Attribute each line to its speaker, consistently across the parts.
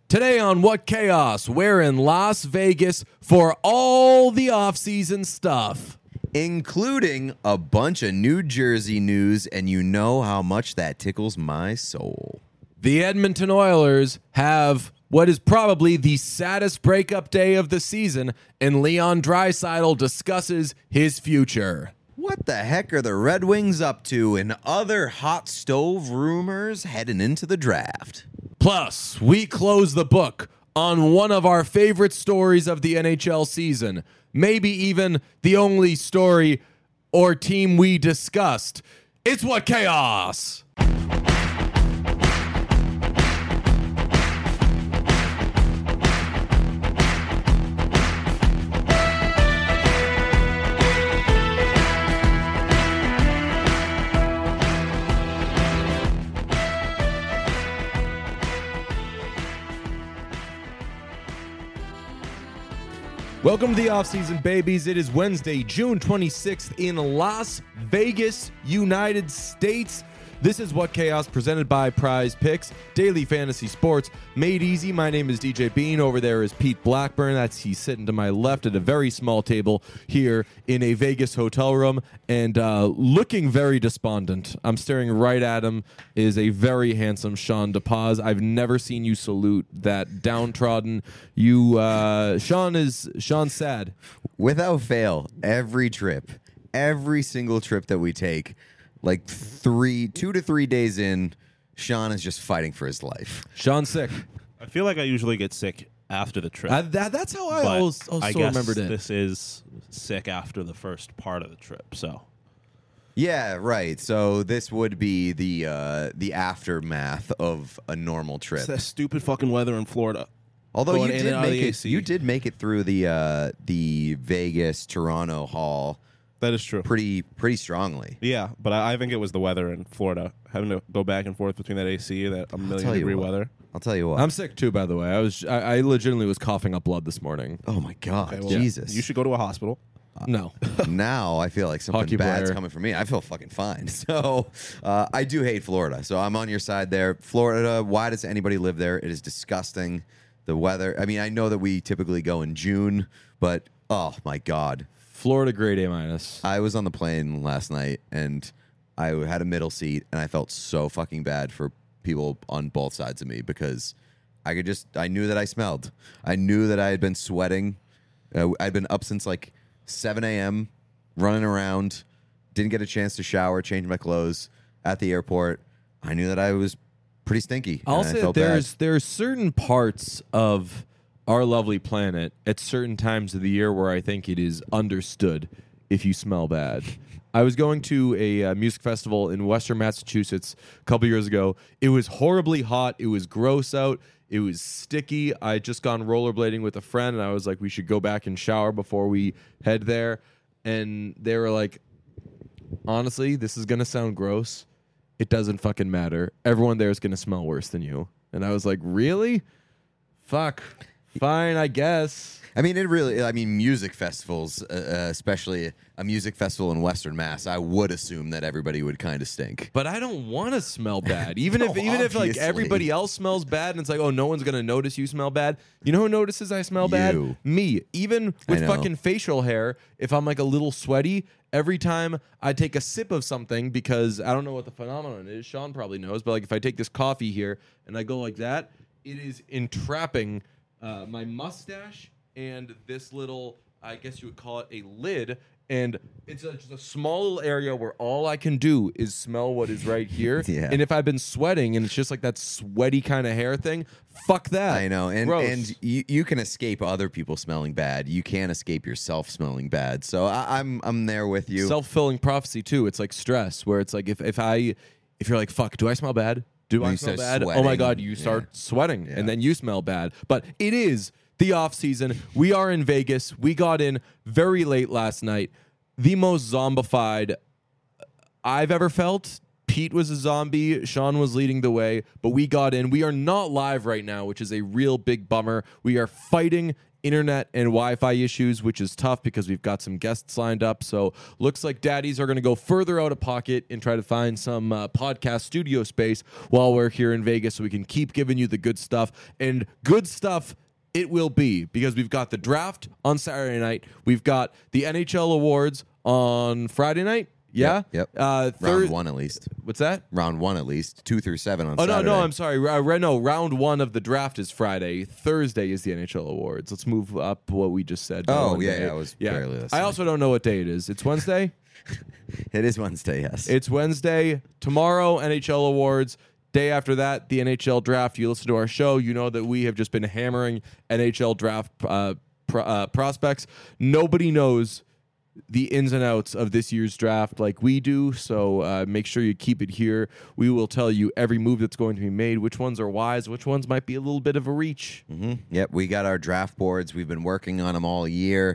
Speaker 1: Today on What Chaos, we're in Las Vegas for all the off-season stuff.
Speaker 2: Including a bunch of New Jersey news, and you know how much that tickles my soul.
Speaker 1: The Edmonton Oilers have what is probably the saddest breakup day of the season, and Leon Draisaitl discusses his future.
Speaker 2: What the heck are the Red Wings up to, and other hot stove rumors heading into the draft?
Speaker 1: Plus, we close the book on one of our favorite stories of the NHL season, maybe even the only story or team we discussed. It's What Chaos! Welcome to the offseason, babies. It is Wednesday, June 26th in Las Vegas, United States. This is What Chaos, presented by Prize Picks, daily fantasy sports, made easy. My name is DJ Bean. Over there is Pete Blackburn. He's sitting to my left at a very small table here in a Vegas hotel room and looking very despondent. I'm staring right at him is a very handsome Sean DePaz. I've never seen you salute that downtrodden. Sean's sad.
Speaker 2: Without fail, every single trip that we take, like 2 to 3 days in, Sean is just fighting for his life.
Speaker 1: Sean's sick.
Speaker 3: I feel like I usually get sick after the trip.
Speaker 1: That's how I
Speaker 3: but
Speaker 1: also
Speaker 3: I guess
Speaker 1: remembered it.
Speaker 3: This is sick after the first part of the trip, so.
Speaker 2: Yeah, right. So this would be the aftermath of a normal trip.
Speaker 3: It's that stupid fucking weather in Florida.
Speaker 2: Although
Speaker 3: Going in and out of the AC.
Speaker 2: you did make it through the Vegas Toronto Haul
Speaker 3: That is true.
Speaker 2: pretty strongly.
Speaker 3: Yeah, but I think it was the weather in Florida. Having to go back and forth between that AC and that a million degree weather.
Speaker 2: I'll tell you what.
Speaker 1: I'm sick too, by the way. I legitimately was coughing up blood this morning.
Speaker 2: Oh my God,
Speaker 3: Okay, well,
Speaker 2: Jesus!
Speaker 3: You should go to a hospital.
Speaker 1: No.
Speaker 2: Now I feel like something
Speaker 1: Hockey
Speaker 2: bad's
Speaker 1: player.
Speaker 2: coming for me. I feel fucking fine. So I do hate Florida. So I'm on your side there. Florida, why does anybody live there? It is disgusting. The weather. I mean, I know that we typically go in June, but oh my God.
Speaker 1: Florida grade A-.
Speaker 2: I was on the plane last night and I had a middle seat and I felt so fucking bad for people on both sides of me because I knew that I smelled. I knew that I had been sweating. I'd been up since like 7 a.m. running around, didn't get a chance to shower, change my clothes at the airport. I knew that I was pretty stinky.
Speaker 1: I'll
Speaker 2: and I
Speaker 1: say
Speaker 2: felt
Speaker 1: there's certain parts of our lovely planet at certain times of the year where I think it is understood if you smell bad. I was going to a music festival in Western Massachusetts a couple years ago. It was horribly hot. It was gross out. It was sticky. I had just gone rollerblading with a friend, and I was like, we should go back and shower before we head there. And they were like, honestly, this is going to sound gross. It doesn't fucking matter. Everyone there is going to smell worse than you. And I was like, really? Fuck. Fine, I guess.
Speaker 2: I mean, music festivals, especially a music festival in Western Mass, I would assume that everybody would kind of stink.
Speaker 1: But I don't want to smell bad. Even
Speaker 2: No,
Speaker 1: if like
Speaker 2: obviously.
Speaker 1: everybody else smells bad and it's like, oh, no one's gonna notice you smell bad. You know who notices I smell bad?
Speaker 2: You.
Speaker 1: Me. Even with
Speaker 2: I know.
Speaker 1: fucking facial hair, if I'm like a little sweaty, every time I take a sip of something, because I don't know what the phenomenon is, Sean probably knows, but like if I take this coffee here and I go like that, it is entrapping my mustache and this little, I guess you would call it a lid, and it's just a small little area where all I can do is smell what is right here.
Speaker 2: Yeah.
Speaker 1: And if I've been sweating and it's just like that sweaty kind of hair thing, fuck that.
Speaker 2: I know,
Speaker 1: Gross.
Speaker 2: and you can escape other people smelling bad. You can't escape yourself smelling bad. So I'm there with you.
Speaker 1: Self-fulfilling prophecy too. It's like stress, where it's like if you're like, fuck, do I smell bad? Do
Speaker 2: When
Speaker 1: I
Speaker 2: you
Speaker 1: smell
Speaker 2: start
Speaker 1: bad? Oh my
Speaker 2: sweating,
Speaker 1: God, you start sweating,
Speaker 2: Yeah.
Speaker 1: and then you smell bad. But it is the off season. We are in Vegas. We got in very late last night. The most zombified I've ever felt. Pete was a zombie. Sean was leading the way, but we got in. We are not live right now, which is a real big bummer. We are fighting internet and Wi-Fi issues, which is tough because we've got some guests lined up. So looks like daddies are going to go further out of pocket and try to find some podcast studio space while we're here in Vegas so we can keep giving you the good stuff. And good stuff it will be, because we've got the draft on Saturday night. We've got the NHL awards on Friday night. Yeah?
Speaker 2: Yep. Round 1 at least.
Speaker 1: What's that?
Speaker 2: Round 1 at least. 2 through 7 on
Speaker 1: Saturday.
Speaker 2: Saturday.
Speaker 1: No, I'm sorry. No, round 1 of the draft is Friday. Thursday is the NHL awards. Let's move up what we just said.
Speaker 2: Oh, yeah, I was barely listening.
Speaker 1: I also don't know what day it is. It's Wednesday?
Speaker 2: It is Wednesday, yes.
Speaker 1: It's Wednesday. Tomorrow, NHL awards. Day after that, the NHL draft. You listen to our show, you know that we have just been hammering NHL draft prospects. Nobody knows the ins and outs of this year's draft like we do, so make sure you keep it here. We will tell you every move that's going to be made, which ones are wise, which ones might be a little bit of a reach.
Speaker 2: Mm-hmm. Yep, we got our draft boards. We've been working on them all year.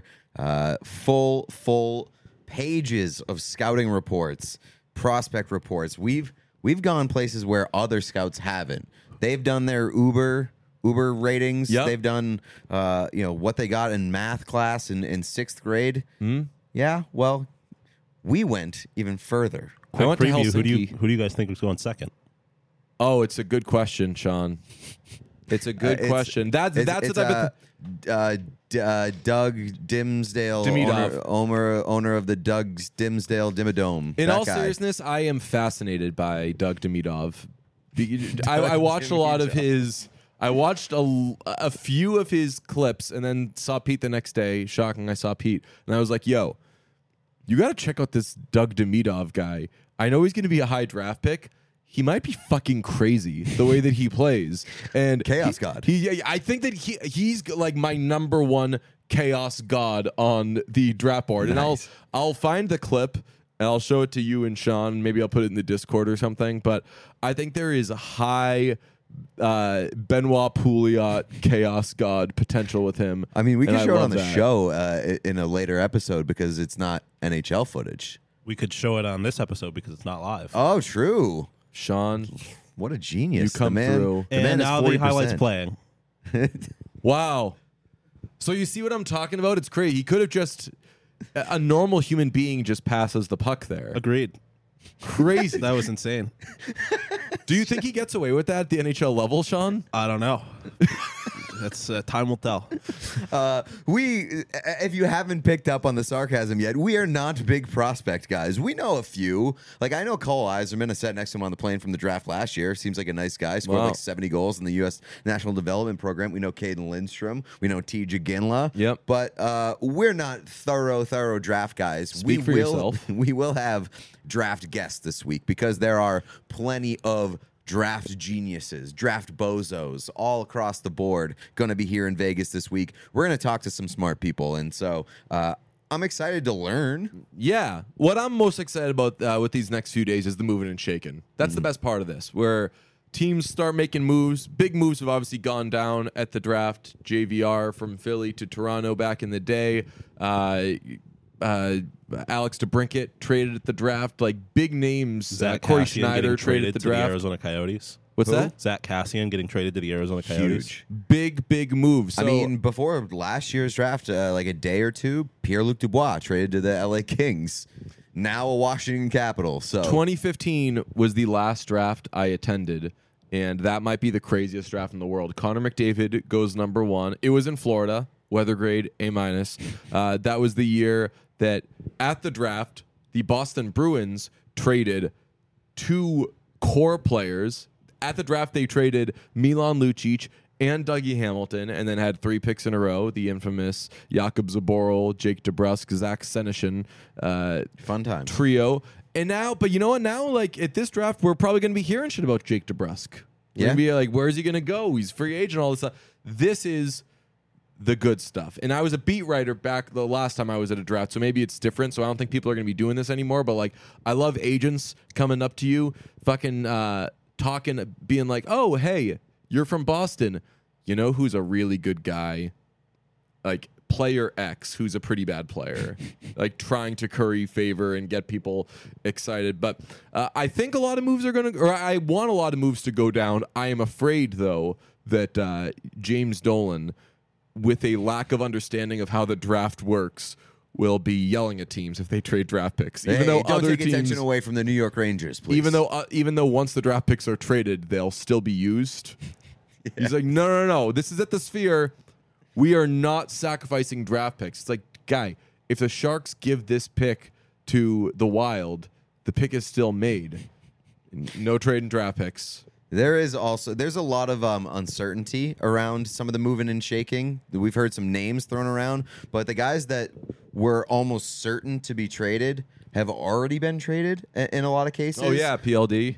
Speaker 2: Full pages of scouting reports, prospect reports. We've gone places where other scouts haven't. They've done their Uber ratings.
Speaker 1: Yep.
Speaker 2: They've done what they got in math class in 6th grade.
Speaker 1: Mm-hmm.
Speaker 2: Yeah, well, we went even further.
Speaker 1: I went to
Speaker 3: Preview.
Speaker 1: Helsinki.
Speaker 3: Who do you guys think is going second?
Speaker 1: Oh, it's a good question, Sean. It's a good question. That's the type of
Speaker 2: Doug Dimsdale,
Speaker 1: Demidov.
Speaker 2: owner of the Doug's Dimsdale Dimmadome.
Speaker 1: In
Speaker 2: that
Speaker 1: all
Speaker 2: guy.
Speaker 1: seriousness, I am fascinated by Doug Demidov. I watched a lot of his. I watched a few of his clips and then saw Pete the next day. Shocking, I saw Pete. And I was like, yo, you got to check out this Doug Demidov guy. I know he's going to be a high draft pick. He might be fucking crazy the way that he plays. And
Speaker 2: Chaos God.
Speaker 1: I think that he's like my number one chaos god on the draft board.
Speaker 2: Nice.
Speaker 1: And I'll find the clip and I'll show it to you and Sean. Maybe I'll put it in the Discord or something. But I think there is a high Benoit Pouliot chaos god potential with him.
Speaker 2: I mean, we can show it on the
Speaker 1: that.
Speaker 2: show in a later episode because it's not NHL footage.
Speaker 3: We could show it on this episode because it's not live.
Speaker 2: Oh, true.
Speaker 1: Sean,
Speaker 2: What a genius.
Speaker 1: You come
Speaker 2: the man,
Speaker 1: through.
Speaker 2: The man
Speaker 3: And
Speaker 2: is
Speaker 3: now
Speaker 2: 40%.
Speaker 3: the highlights playing.
Speaker 1: wow. So you see what I'm talking about? It's crazy. He could have just a normal human being just passes the puck there.
Speaker 3: Agreed.
Speaker 1: Crazy.
Speaker 3: That was insane.
Speaker 1: Do you think he gets away with that at the NHL level, Sean?
Speaker 3: I don't know. That's time will tell.
Speaker 2: If you haven't picked up on the sarcasm yet, we are not big prospect guys. We know a few. Like, I know Cole Eiserman. I sat next to him on the plane from the draft last year. Seems like a nice guy. Scored
Speaker 1: Wow.
Speaker 2: like 70 goals in the U.S. National Development Program. We know Caden Lindstrom. We know T.J. Ginla.
Speaker 1: Yep.
Speaker 2: But we're not thorough draft guys.
Speaker 1: Speak for yourself.
Speaker 2: We will have draft guests this week because there are plenty of draft geniuses, draft bozos all across the board going to be here in Vegas this week. We're going to talk to some smart people. And so I'm excited to learn.
Speaker 1: Yeah. What I'm most excited about with these next few days is the moving and shaking. That's the best part of this, where teams start making moves. Big moves have obviously gone down at the draft. JVR from Philly to Toronto back in the day. Alex DeBrincat traded at the draft. Like big names.
Speaker 3: Zach
Speaker 1: Corey
Speaker 3: Cassian
Speaker 1: Schneider
Speaker 3: getting
Speaker 1: traded at the
Speaker 3: to the
Speaker 1: draft.
Speaker 3: Arizona Coyotes.
Speaker 1: What's
Speaker 2: Who?
Speaker 1: that?
Speaker 3: Zach Cassian getting traded to the Arizona Coyotes.
Speaker 2: Huge.
Speaker 1: Big moves. So,
Speaker 2: I mean, before last year's draft, like a day or two, Pierre-Luc Dubois traded to the LA Kings. Now a Washington Capital. So
Speaker 1: 2015 was the last draft I attended, and that might be the craziest draft in the world. Connor McDavid goes number 1. It was in Florida, weather grade A-. That was the year that at the draft, the Boston Bruins traded 2 core players. At the draft, they traded Milan Lucic and Dougie Hamilton, and then had 3 picks in a row, the infamous Jakub Zaboral, Jake DeBrusk, Zach Senyshyn
Speaker 2: fun time.
Speaker 1: trio. And now, but you know what? Now, like at this draft, we're probably going to be hearing shit about Jake DeBrusk. We're
Speaker 2: Yeah.
Speaker 1: going to be like, where's he going to go? He's free agent, all this stuff. This is the good stuff. And I was a beat writer back the last time I was at a draft, so maybe it's different. So I don't think people are going to be doing this anymore. But like, I love agents coming up to you, fucking talking, being like, oh, hey, you're from Boston. You know who's a really good guy? Like player X, who's a pretty bad player, like trying to curry favor and get people excited. But I think a lot of moves are going to, or I want a lot of moves to go down. I am afraid, though, that James Dolan with a lack of understanding of how the draft works, will be yelling at teams if they trade draft picks. Even though
Speaker 2: don't
Speaker 1: other
Speaker 2: take
Speaker 1: teams,
Speaker 2: attention away from the New York Rangers, please.
Speaker 1: even though once the draft picks are traded, they'll still be used. Yeah. He's like, no. This is at the Sphere. We are not sacrificing draft picks. It's like, guy, if the Sharks give this pick to the Wild, the pick is still made. No trade in draft picks.
Speaker 2: There's a lot of uncertainty around some of the moving and shaking. We've heard some names thrown around, but the guys that were almost certain to be traded have already been traded in a lot of cases.
Speaker 1: Oh yeah, PLD,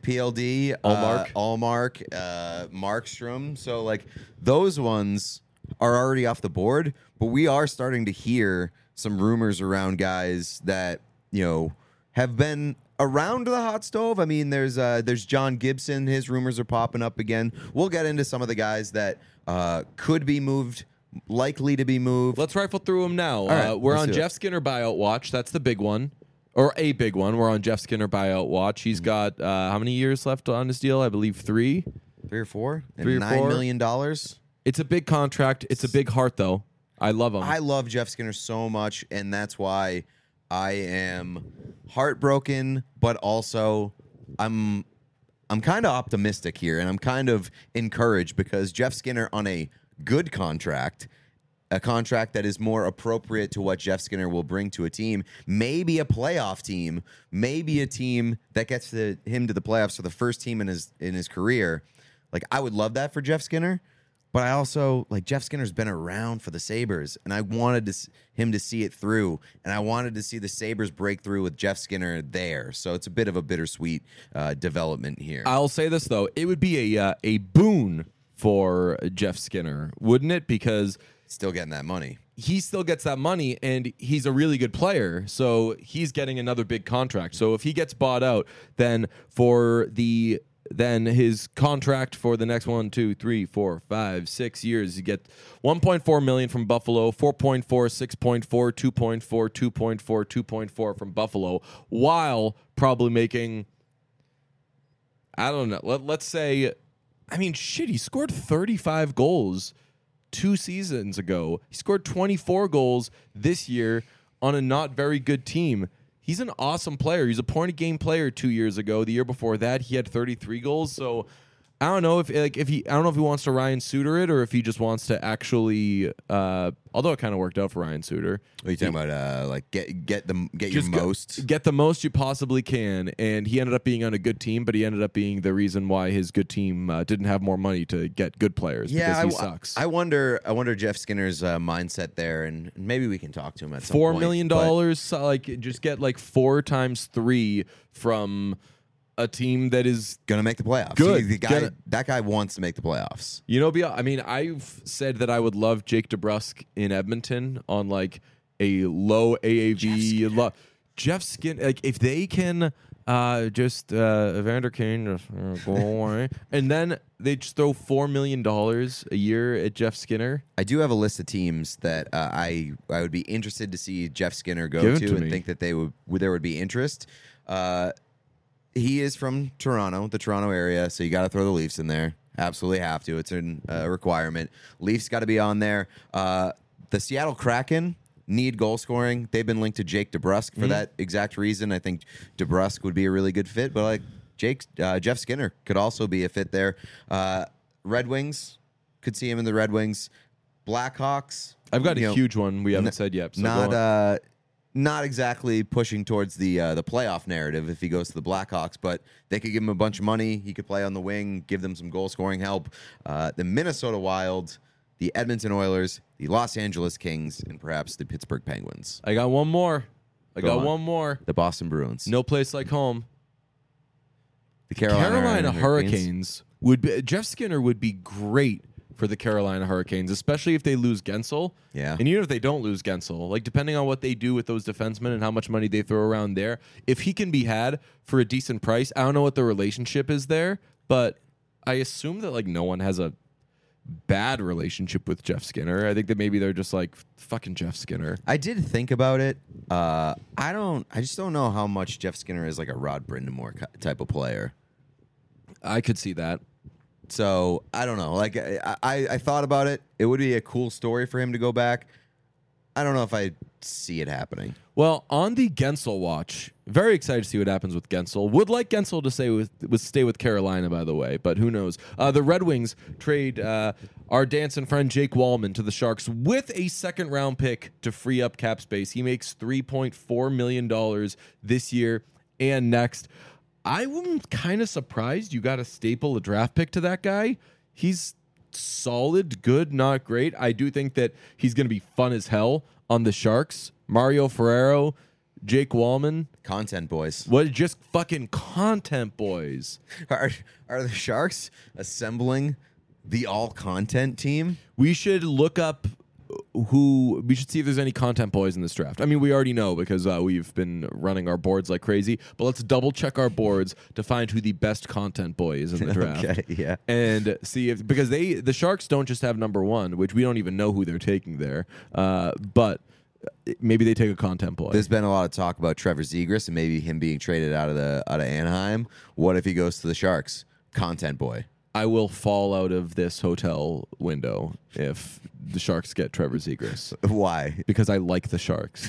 Speaker 2: Allmark, Markstrom. So like those ones are already off the board, but we are starting to hear some rumors around guys that have been around the hot stove. I mean, there's John Gibson. His rumors are popping up again. We'll get into some of the guys that could be moved, likely to be moved.
Speaker 1: Let's rifle through them now.
Speaker 2: Right,
Speaker 1: we're on Jeff Skinner buyout watch. That's the big one, or a big one. We're on Jeff Skinner buyout watch. He's got how many years left on his deal? I believe 3.
Speaker 2: 3 or 4.
Speaker 1: $3 or
Speaker 2: $9
Speaker 1: 4.
Speaker 2: million.
Speaker 1: It's a big contract. It's a big heart, though. I love him.
Speaker 2: I love Jeff Skinner so much, and that's why I am heartbroken, but also I'm kind of optimistic here, and I'm kind of encouraged because Jeff Skinner on a good contract, a contract that is more appropriate to what Jeff Skinner will bring to a team, maybe a playoff team, maybe a team that gets him to the playoffs for the first team in his career. Like, I would love that for Jeff Skinner. But I also, Jeff Skinner's been around for the Sabres, and I wanted him to see it through, and I wanted to see the Sabres break through with Jeff Skinner there. So it's a bit of a bittersweet development here.
Speaker 1: I'll say this, though. It would be a boon for Jeff Skinner, wouldn't it? Because
Speaker 2: still getting that money.
Speaker 1: He still gets that money, and he's a really good player, so he's getting another big contract. So if he gets bought out, then his contract for the next 1, 2, 3, 4, 5, 6 years, you get $1.4 million from Buffalo, 4.4, 6.4, 2.4, 2.4, 2.4 from Buffalo, while probably making, I don't know, let's say, he scored 35 goals 2 seasons ago. He scored 24 goals this year on a not very good team. He's an awesome player. He's a point-a-game player 2 years ago. The year before that, he had 33 goals. So I don't know if he wants to Ryan Suter it or if he just wants to actually. Although it kind of worked out for Ryan Suter.
Speaker 2: What are you talking about? Get your most.
Speaker 1: Get the most you possibly can, and he ended up being on a good team, but he ended up being the reason why his good team didn't have more money to get good players.
Speaker 2: Yeah,
Speaker 1: because he sucks.
Speaker 2: I wonder Jeff Skinner's mindset there, and maybe we can talk to him at some
Speaker 1: $4
Speaker 2: point.
Speaker 1: million, just get 4 times 3 from a team that is
Speaker 2: gonna make the playoffs.
Speaker 1: Good.
Speaker 2: That guy wants to make the playoffs.
Speaker 1: I've said that I would love Jake DeBrusk in Edmonton on a low AAV. Jeff Skinner, if they can Evander Kane go away, and then they just throw $4 million a year at Jeff Skinner.
Speaker 2: I do have a list of teams that I would be interested to see Jeff Skinner go to and think that there would be interest. He is from Toronto, the Toronto area, so you got to throw the Leafs in there. Absolutely have to. It's a requirement. Leafs got to be on there. The Seattle Kraken need goal scoring. They've been linked to Jake DeBrusk for that exact reason. I think DeBrusk would be a really good fit, but Jeff Skinner could also be a fit there. Red Wings, could see him in the Red Wings. Blackhawks.
Speaker 1: I've got a huge one we haven't said yet. So
Speaker 2: not exactly pushing towards the playoff narrative if he goes to the Blackhawks, but they could give him a bunch of money. He could play on the wing, give them some goal-scoring help. The Minnesota Wild, the Edmonton Oilers, the Los Angeles Kings, and perhaps the Pittsburgh Penguins.
Speaker 1: I got one more. One more.
Speaker 2: The Boston Bruins.
Speaker 1: No place like home.
Speaker 2: The Carolina
Speaker 1: Hurricanes Jeff Skinner would be great for the Carolina Hurricanes, especially if they lose Gensel.
Speaker 2: Yeah.
Speaker 1: And even if they don't lose Gensel, depending on what they do with those defensemen and how much money they throw around there, if he can be had for a decent price, I don't know what the relationship is there, but I assume that no one has a bad relationship with Jeff Skinner. I think that maybe they're just fucking Jeff Skinner.
Speaker 2: I did think about it. I just don't know how much Jeff Skinner is a Rod Brind'Amour type of player.
Speaker 1: I could see that.
Speaker 2: So I don't know. Like I thought about it. It would be a cool story for him to go back. I don't know if I see it happening.
Speaker 1: Well, on the Gensel watch, very excited to see what happens with Gensel. Would like Gensel to stay with Carolina, by the way, but who knows? The Red Wings trade our dancing friend Jake Wallman to the Sharks with a second-round pick to free up cap space. He makes $3.4 million this year and next. I'm kind of surprised you got to staple a draft pick to that guy. He's solid, good, not great. I do think that he's going to be fun as hell on the Sharks. Mario Ferrero, Jake Wallman.
Speaker 2: Content boys.
Speaker 1: What, just fucking content boys.
Speaker 2: Are the Sharks assembling the all content team?
Speaker 1: We should look up we should see if there's any content boys in this draft. I mean, we already know because we've been running our boards like crazy, but let's double check our boards to find who the best content boy is in the draft.
Speaker 2: Okay, yeah.
Speaker 1: And see if, because the Sharks don't just have number one, which we don't even know who they're taking there. But maybe they take a content boy.
Speaker 2: There's been a lot of talk about Trevor Zegras and maybe him being traded out of Anaheim. What if he goes to the Sharks? Content boy.
Speaker 1: I will fall out of this hotel window if the Sharks get Trevor Zegras.
Speaker 2: Why?
Speaker 1: Because I like the Sharks.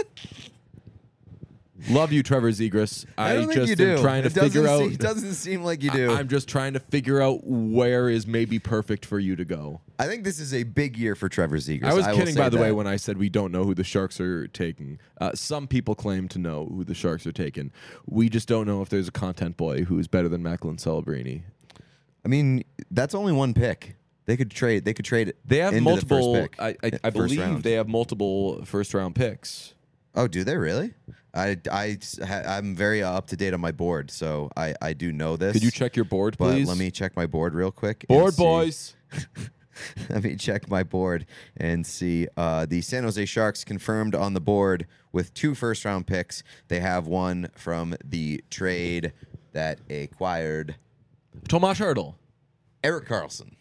Speaker 1: Love you, Trevor Zegras.
Speaker 2: I don't think
Speaker 1: just
Speaker 2: you do.
Speaker 1: am trying to figure out.
Speaker 2: It doesn't seem like you do.
Speaker 1: I'm just trying to figure out where is maybe perfect for you to go.
Speaker 2: I think this is a big year for Trevor Zegras.
Speaker 1: I was kidding, by the way,
Speaker 2: that.
Speaker 1: when I said we don't know who the Sharks are taking. Some people claim to know who the Sharks are taking. We just don't know if there's a content boy who's better than Macklin Celebrini.
Speaker 2: I mean, that's only one pick. They could trade. They
Speaker 1: have
Speaker 2: into
Speaker 1: multiple.
Speaker 2: The first pick,
Speaker 1: I believe
Speaker 2: round.
Speaker 1: they have multiple first-round picks.
Speaker 2: Oh, do they really? I'm very up to date on my board, so I do know this.
Speaker 1: Could you check your board,
Speaker 2: But
Speaker 1: please?
Speaker 2: let me check my board real quick.
Speaker 1: Board boys.
Speaker 2: Let me check my board and see. The San Jose Sharks confirmed on the board with 2 first-round picks. They have one from the trade that acquired
Speaker 1: Tomas Hertl.
Speaker 2: Erik Karlsson.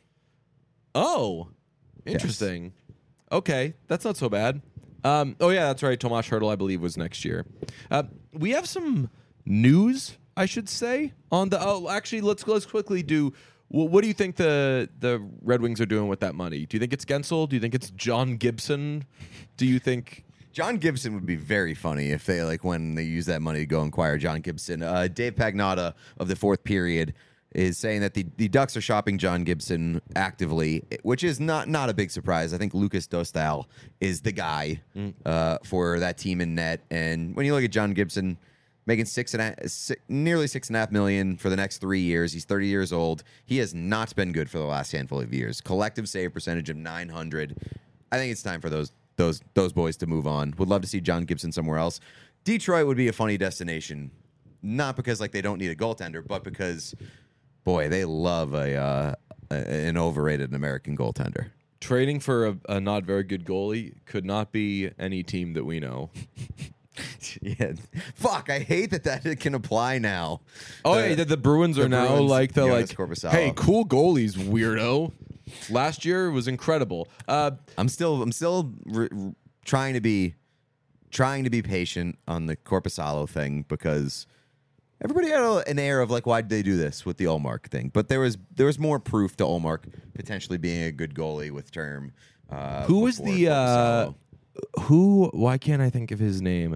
Speaker 1: Oh, interesting. Okay, that's not so bad. Oh yeah, that's right. Tomas Hertl, I believe, was next year. We have some news, I should say, on the. Oh, actually, let's quickly do. What do you think the Red Wings are doing with that money? Do you think it's Gensel? Do you think it's John Gibson? Do you think
Speaker 2: John Gibson would be very funny if they when they use that money to go acquire John Gibson? Dave Pagnotta of the Fourth Period is saying that the Ducks are shopping John Gibson actively, which is not a big surprise. I think Lucas Dostal is the guy for that team in net. And when you look at John Gibson making nearly $6.5 million for the next 3 years, he's 30 years old. He has not been good for the last handful of years. Collective save percentage of .900. I think it's time for those boys to move on. Would love to see John Gibson somewhere else. Detroit would be a funny destination, not because they don't need a goaltender, but because, boy, they love an overrated American goaltender.
Speaker 1: trading for a not very good goalie could not be any team that we know?
Speaker 2: Yeah, fuck! I hate that can apply now.
Speaker 1: Oh, yeah, the Bruins are now
Speaker 2: Jonas
Speaker 1: like,
Speaker 2: Korpisalo.
Speaker 1: hey, cool goalies, weirdo. Last year was incredible.
Speaker 2: I'm still trying to be patient on the Korpisalo thing because everybody had an air of why did they do this with the Ullmark thing? But there was more proof to Ullmark potentially being a good goalie with term.
Speaker 1: Who was the
Speaker 2: Korpisalo.
Speaker 1: why can't I think of his name?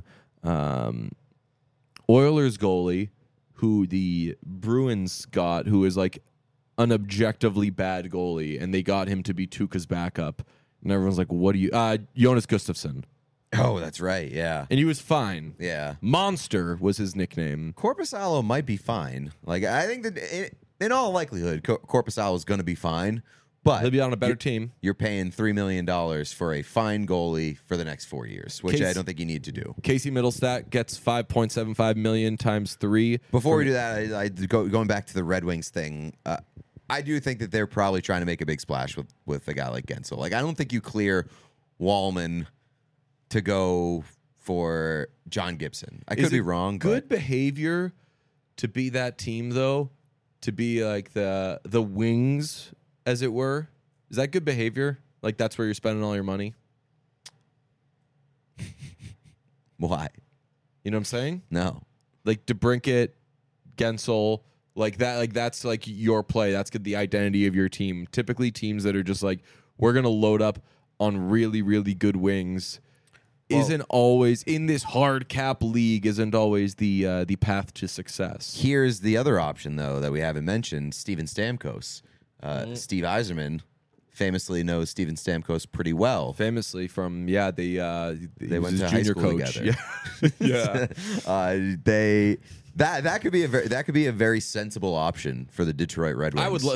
Speaker 1: Oilers goalie who the Bruins got, who is an objectively bad goalie, and they got him to be Tuukka's backup. And everyone's like, what do you... Jonas Gustafsson.
Speaker 2: Oh, that's right, yeah.
Speaker 1: And he was fine.
Speaker 2: Yeah.
Speaker 1: Monster was his nickname.
Speaker 2: Korpisalo might be fine. I think that in all likelihood, Korpisalo is going to be fine. But
Speaker 1: He'll be on a better team.
Speaker 2: You're paying $3 million for a fine goalie for the next 4 years, which I don't think you need to do.
Speaker 1: Casey Middlestat gets $5.75 million times 3.
Speaker 2: Before we do that, going back to the Red Wings thing, I do think that they're probably trying to make a big splash with a guy like Gensel. I don't think you clear Wallman to go for John Gibson. I could be wrong.
Speaker 1: Good behavior to be that team, though, to be like the Wings, as it were. Is that good behavior? That's where you're spending all your money?
Speaker 2: Why?
Speaker 1: You know what I'm saying?
Speaker 2: No.
Speaker 1: DeBrincat, Gensel, Like that, like that's like your play. That's the identity of your team. Typically, teams that are just like, we're gonna load up on really, really good wings, isn't always in this hard cap league. Isn't always the path to success.
Speaker 2: Here's the other option, though, that we haven't mentioned: Steven Stamkos. Steve Yzerman famously knows Steven Stamkos pretty well.
Speaker 1: Famously from
Speaker 2: they went to high school
Speaker 1: coach.
Speaker 2: together.
Speaker 1: Yeah.
Speaker 2: That could be a very sensible option for the Detroit Red Wings.
Speaker 1: I would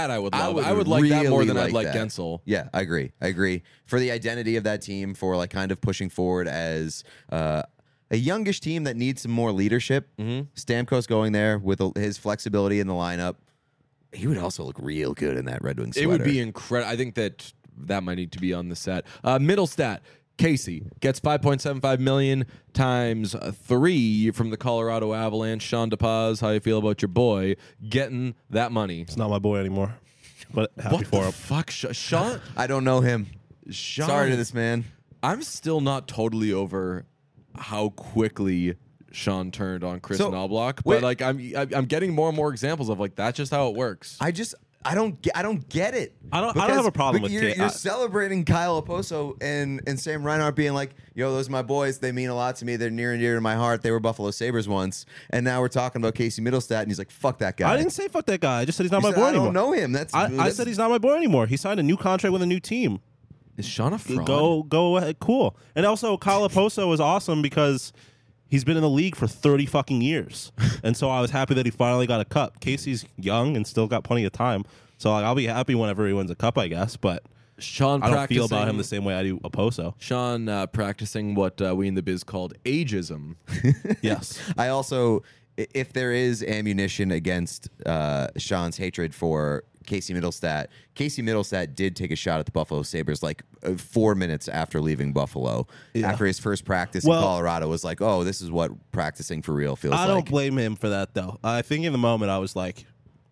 Speaker 1: I would like that more than I'd like Gensel.
Speaker 2: Yeah, I agree. For the identity of that team, for like kind of pushing forward as a youngish team that needs some more leadership. Stamkos going there with his flexibility in the lineup, he would also look real good in that Red Wings sweater.
Speaker 1: It would be incredible. I think that might need to be on the set. Middle stat. Casey gets $5.75 million times 3 from the Colorado Avalanche. Sean DePaz, how you feel about your boy getting that money?
Speaker 3: It's not my boy anymore, but happy for him.
Speaker 1: Fuck, Sean?
Speaker 2: I don't know him.
Speaker 1: Sean,
Speaker 2: Sorry to this man.
Speaker 1: I'm still not totally over how quickly Sean turned on Chris Knobloch, but like I'm getting more and more examples of like that's just how it works.
Speaker 2: I don't get it.
Speaker 3: I don't have a problem with
Speaker 2: you're celebrating Kyle Oposo and Sam Reinhart being like, yo, those are my boys. They mean a lot to me. They're near and dear to my heart. They were Buffalo Sabres once. And now we're talking about Casey Middlestat, and he's like, fuck that guy.
Speaker 3: I didn't say fuck that guy. I just said he's not my boy
Speaker 2: I
Speaker 3: anymore.
Speaker 2: don't know him.
Speaker 3: I said he's not my boy anymore. He signed a new contract with a new team.
Speaker 1: Is Sean a fraud?
Speaker 3: Go ahead. Cool. And also, Kyle Oposo is awesome because he's been in the league for 30 fucking years. And so I was happy that he finally got a cup. Casey's young and still got plenty of time. So like, I'll be happy whenever he wins a cup, I guess. But
Speaker 1: Sean,
Speaker 3: I don't feel about him the same way I do Oposo.
Speaker 1: Sean practicing what we in the biz called ageism.
Speaker 3: Yes.
Speaker 2: I also, if there is ammunition against Sean's hatred for Casey Middlestat did take a shot at the Buffalo Sabres like 4 minutes after leaving Buffalo. Yeah. After his first practice in Colorado, was like, oh, this is what practicing for real feels like.
Speaker 3: I don't blame him for that, though. I think in the moment I was like,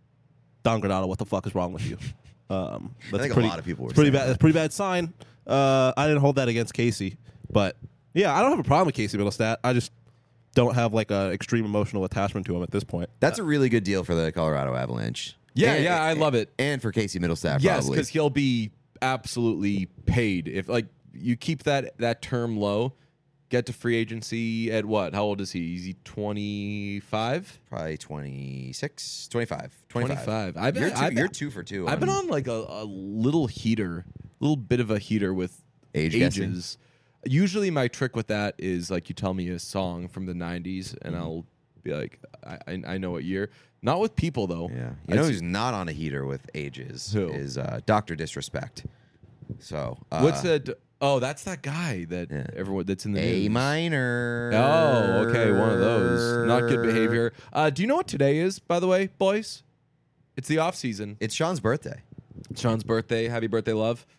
Speaker 3: Don Granado, what the fuck is wrong with you?
Speaker 2: I think a lot of people were
Speaker 3: saying that. That's a pretty bad sign. I didn't hold that against Casey. But, yeah, I don't have a problem with Casey Middlestat. I just don't have like an extreme emotional attachment to him at this point.
Speaker 2: That's a really good deal for the Colorado Avalanche.
Speaker 1: Yeah, I love it.
Speaker 2: And for Casey Middlestat,
Speaker 1: yes,
Speaker 2: probably.
Speaker 1: because he'll be absolutely paid. If like you keep that term low, get to free agency at what? How old is he? Is he 25?
Speaker 2: Probably 26, 25.
Speaker 1: 25.
Speaker 2: You're 2 for 2.
Speaker 1: I've been on like a little bit of a heater with ages. Usually my trick with that is like you tell me a song from the 90s and I'll be like, I know what year. Not with people, though.
Speaker 2: Yeah. You know who's not on a heater with ages is Dr. Disrespect. So
Speaker 1: what's that? Oh, that's that guy that everyone that's in the
Speaker 2: A
Speaker 1: news.
Speaker 2: minor.
Speaker 1: Oh, okay, one of those. Not good behavior. Do you know what today is, by the way, boys? It's the off season.
Speaker 2: It's Sean's birthday.
Speaker 1: Sean's birthday. Happy birthday, love.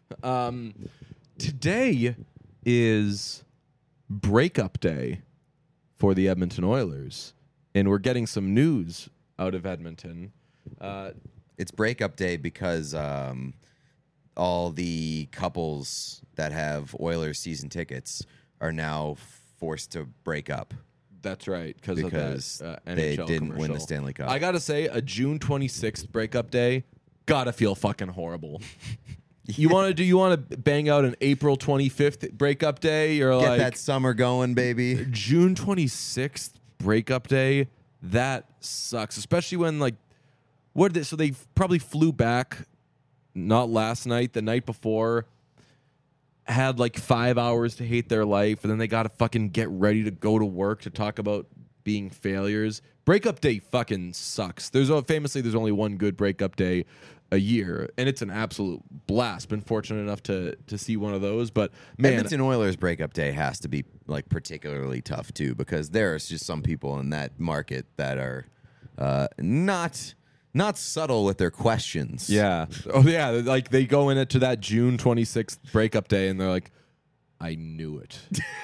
Speaker 1: Today is breakup day for the Edmonton Oilers, and we're getting some news out of Edmonton.
Speaker 2: It's breakup day because all the couples that have Oilers season tickets are now forced to break up.
Speaker 1: That's right, because of that
Speaker 2: they
Speaker 1: NHL
Speaker 2: didn't
Speaker 1: commercial.
Speaker 2: win the Stanley Cup.
Speaker 1: I gotta say, a June 26th breakup day gotta feel fucking horrible. You want to bang out an April 25th breakup day? You're
Speaker 2: Get
Speaker 1: like
Speaker 2: that summer going, baby.
Speaker 1: June 26th breakup day. That sucks, especially when like so they probably flew back not last night, the night before, had like 5 hours to hate their life, and then they got to fucking get ready to go to work to talk about being failures. Breakup day fucking sucks. There's only one good breakup day a year, and it's an absolute blast. Been fortunate enough to see one of those, but man,
Speaker 2: Edmonton Oilers breakup day has to be like particularly tough too, because there's just some people in that market that are not subtle with their questions.
Speaker 1: Yeah. Oh yeah, like they go in it to that June 26th breakup day, and they're like, "I knew it."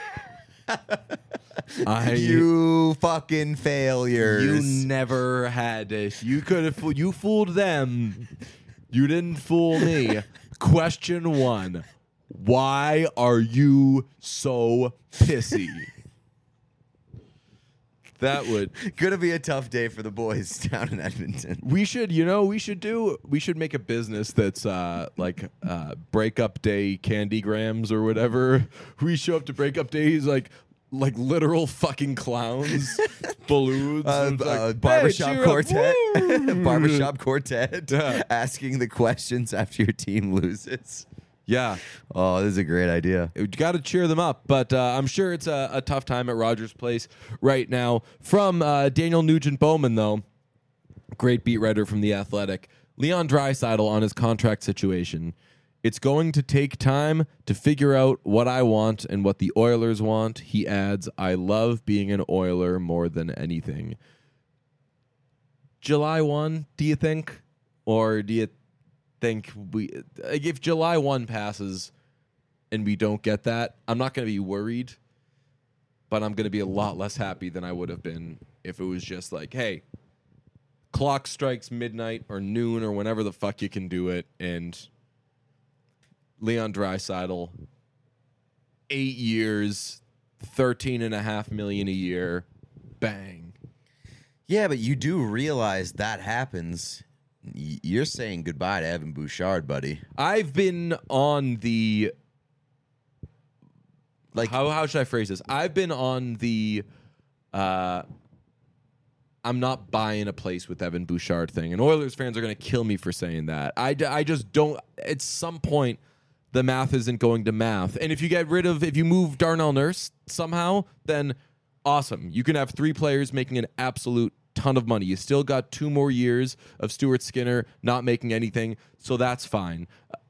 Speaker 2: You fucking failures.
Speaker 1: You never had it. You could have. You fooled them. You didn't fool me. Question 1: why are you so pissy? That would.
Speaker 2: Gonna be a tough day for the boys down in Edmonton.
Speaker 1: We should make a business that's like breakup day candy grams or whatever. We show up to breakup days like literal fucking clowns, balloons, and it's like,
Speaker 2: Barbershop
Speaker 1: "Hey, cheer up,
Speaker 2: quartet,
Speaker 1: woo!"
Speaker 2: barbershop quartet,
Speaker 1: Yeah.
Speaker 2: asking the questions after your team loses.
Speaker 1: Yeah,
Speaker 2: Oh, this is a great idea.
Speaker 1: you got to cheer them up. But I'm sure it's a tough time at Rogers Place right now. From Daniel Nugent Bowman, though, great beat writer from The Athletic, Leon Draisaitl on his contract situation. It's going to take time to figure out what I want and what the Oilers want. He adds, I love being an Oiler more than anything. July 1, do you think? Or do you think if July 1 passes and we don't get that, I'm not going to be worried, but I'm going to be a lot less happy than I would have been if it was just like, hey, clock strikes midnight or noon or whenever the fuck you can do it, and Leon Draisaitl, 8 years, $13.5 million a year, bang.
Speaker 2: Yeah, but you do realize that happens. You're saying goodbye to Evan Bouchard, buddy.
Speaker 1: I've been on the
Speaker 2: Like,
Speaker 1: how should I phrase this? I've been on the I'm not buying a place with Evan Bouchard thing, and Oilers fans are going to kill me for saying that. I just don't. At some point, the math isn't going to math, and if you move Darnell Nurse somehow, then awesome. You can have 3 players making an absolute ton of money. You still got 2 more years of Stuart Skinner not making anything, so that's fine.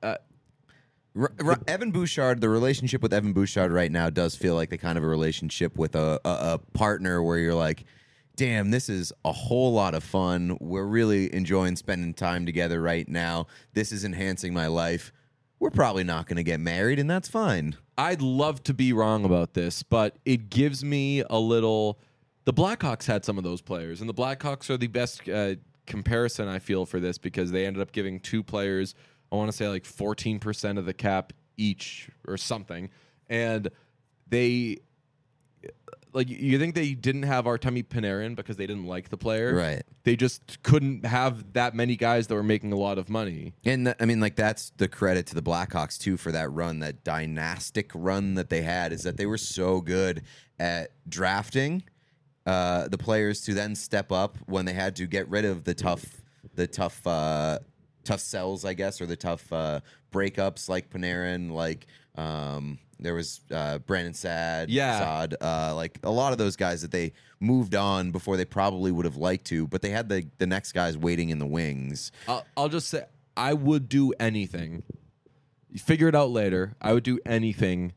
Speaker 2: Evan Bouchard, the relationship with Evan Bouchard right now does feel like the kind of a relationship with a partner where you're like, damn, this is a whole lot of fun. We're really enjoying spending time together right now. This is enhancing my life. We're probably not going to get married, and that's fine.
Speaker 1: I'd love to be wrong about this, but it gives me a little. The Blackhawks had some of those players, and the Blackhawks are the best comparison I feel for this because they ended up giving 2 players, I want to say like 14% of the cap each or something, and they. Like, you think they didn't have Artemi Panarin because they didn't like the player?
Speaker 2: Right.
Speaker 1: They just couldn't have that many guys that were making a lot of money.
Speaker 2: And I mean, like, that's the credit to the Blackhawks too for that run, that dynastic run that they had, is that they were so good at drafting the players to then step up when they had to get rid of the tough sells, I guess, or the tough breakups like Panarin, like there was Brandon Saad, like a lot of those guys that they moved on before they probably would have liked to, but they had the next guys waiting in the wings.
Speaker 1: I'll just say I would do anything. You figure it out later. I would do anything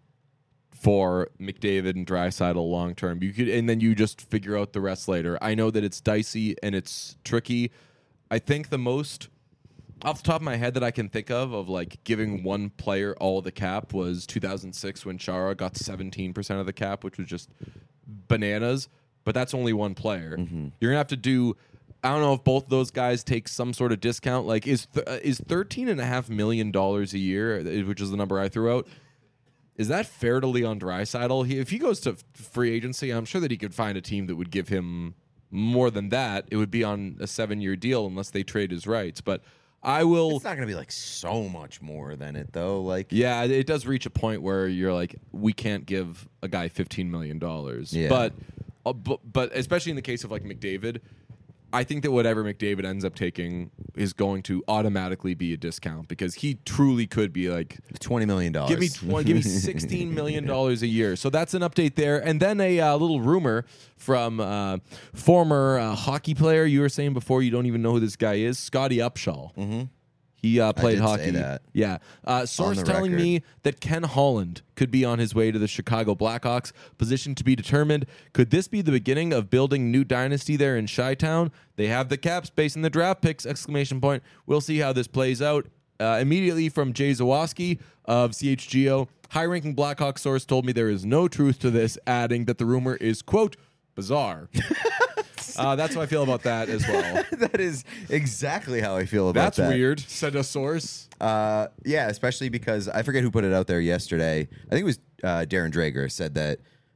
Speaker 1: for McDavid and Draisaitl long term. You could, and then you just figure out the rest later. I know that it's dicey and it's tricky. I think the most off the top of my head that I can think of like giving one player all the cap was 2006 when Chara got 17% of the cap, which was just bananas. But that's only one player.
Speaker 2: Mm-hmm.
Speaker 1: You're gonna have to do. I don't know if both of those guys take some sort of discount. Like, is $13.5 million a year, which is the number I threw out, is that fair to Leon Draisaitl? If he goes to free agency, I'm sure that he could find a team that would give him more than that. It would be on a 7-year deal unless they trade his rights. But I will.
Speaker 2: It's not going to be like so much more than it though. Like,
Speaker 1: yeah, it does reach a point where you're like, we can't give a guy $15 million.
Speaker 2: Yeah.
Speaker 1: But especially in the case of like McDavid, I think that whatever McDavid ends up taking is going to automatically be a discount because he truly could be like
Speaker 2: $20 million.
Speaker 1: Give me $16 million a year. So that's an update there. And then a little rumor from former hockey player. You were saying before you don't even know who this guy is, Scotty Upshall.
Speaker 2: Mm-hmm.
Speaker 1: He played
Speaker 2: did
Speaker 1: hockey.
Speaker 2: say that.
Speaker 1: Yeah. Source
Speaker 2: the
Speaker 1: telling
Speaker 2: record.
Speaker 1: me that Ken Holland could be on his way to the Chicago Blackhawks. Position to be determined. Could this be the beginning of building new dynasty there in Chi-Town? They have the cap space and the draft picks! ! We'll see how this plays out. Immediately from Jay Zawoski of CHGO, high-ranking Blackhawks source told me there is no truth to this, adding that the rumor is, quote, bizarre. That's how I feel about that as well.
Speaker 2: That is exactly how I feel about
Speaker 1: That's
Speaker 2: that.
Speaker 1: weird, said a source.
Speaker 2: Yeah, especially because I forget who put it out there yesterday. I think it was Darren Drager said that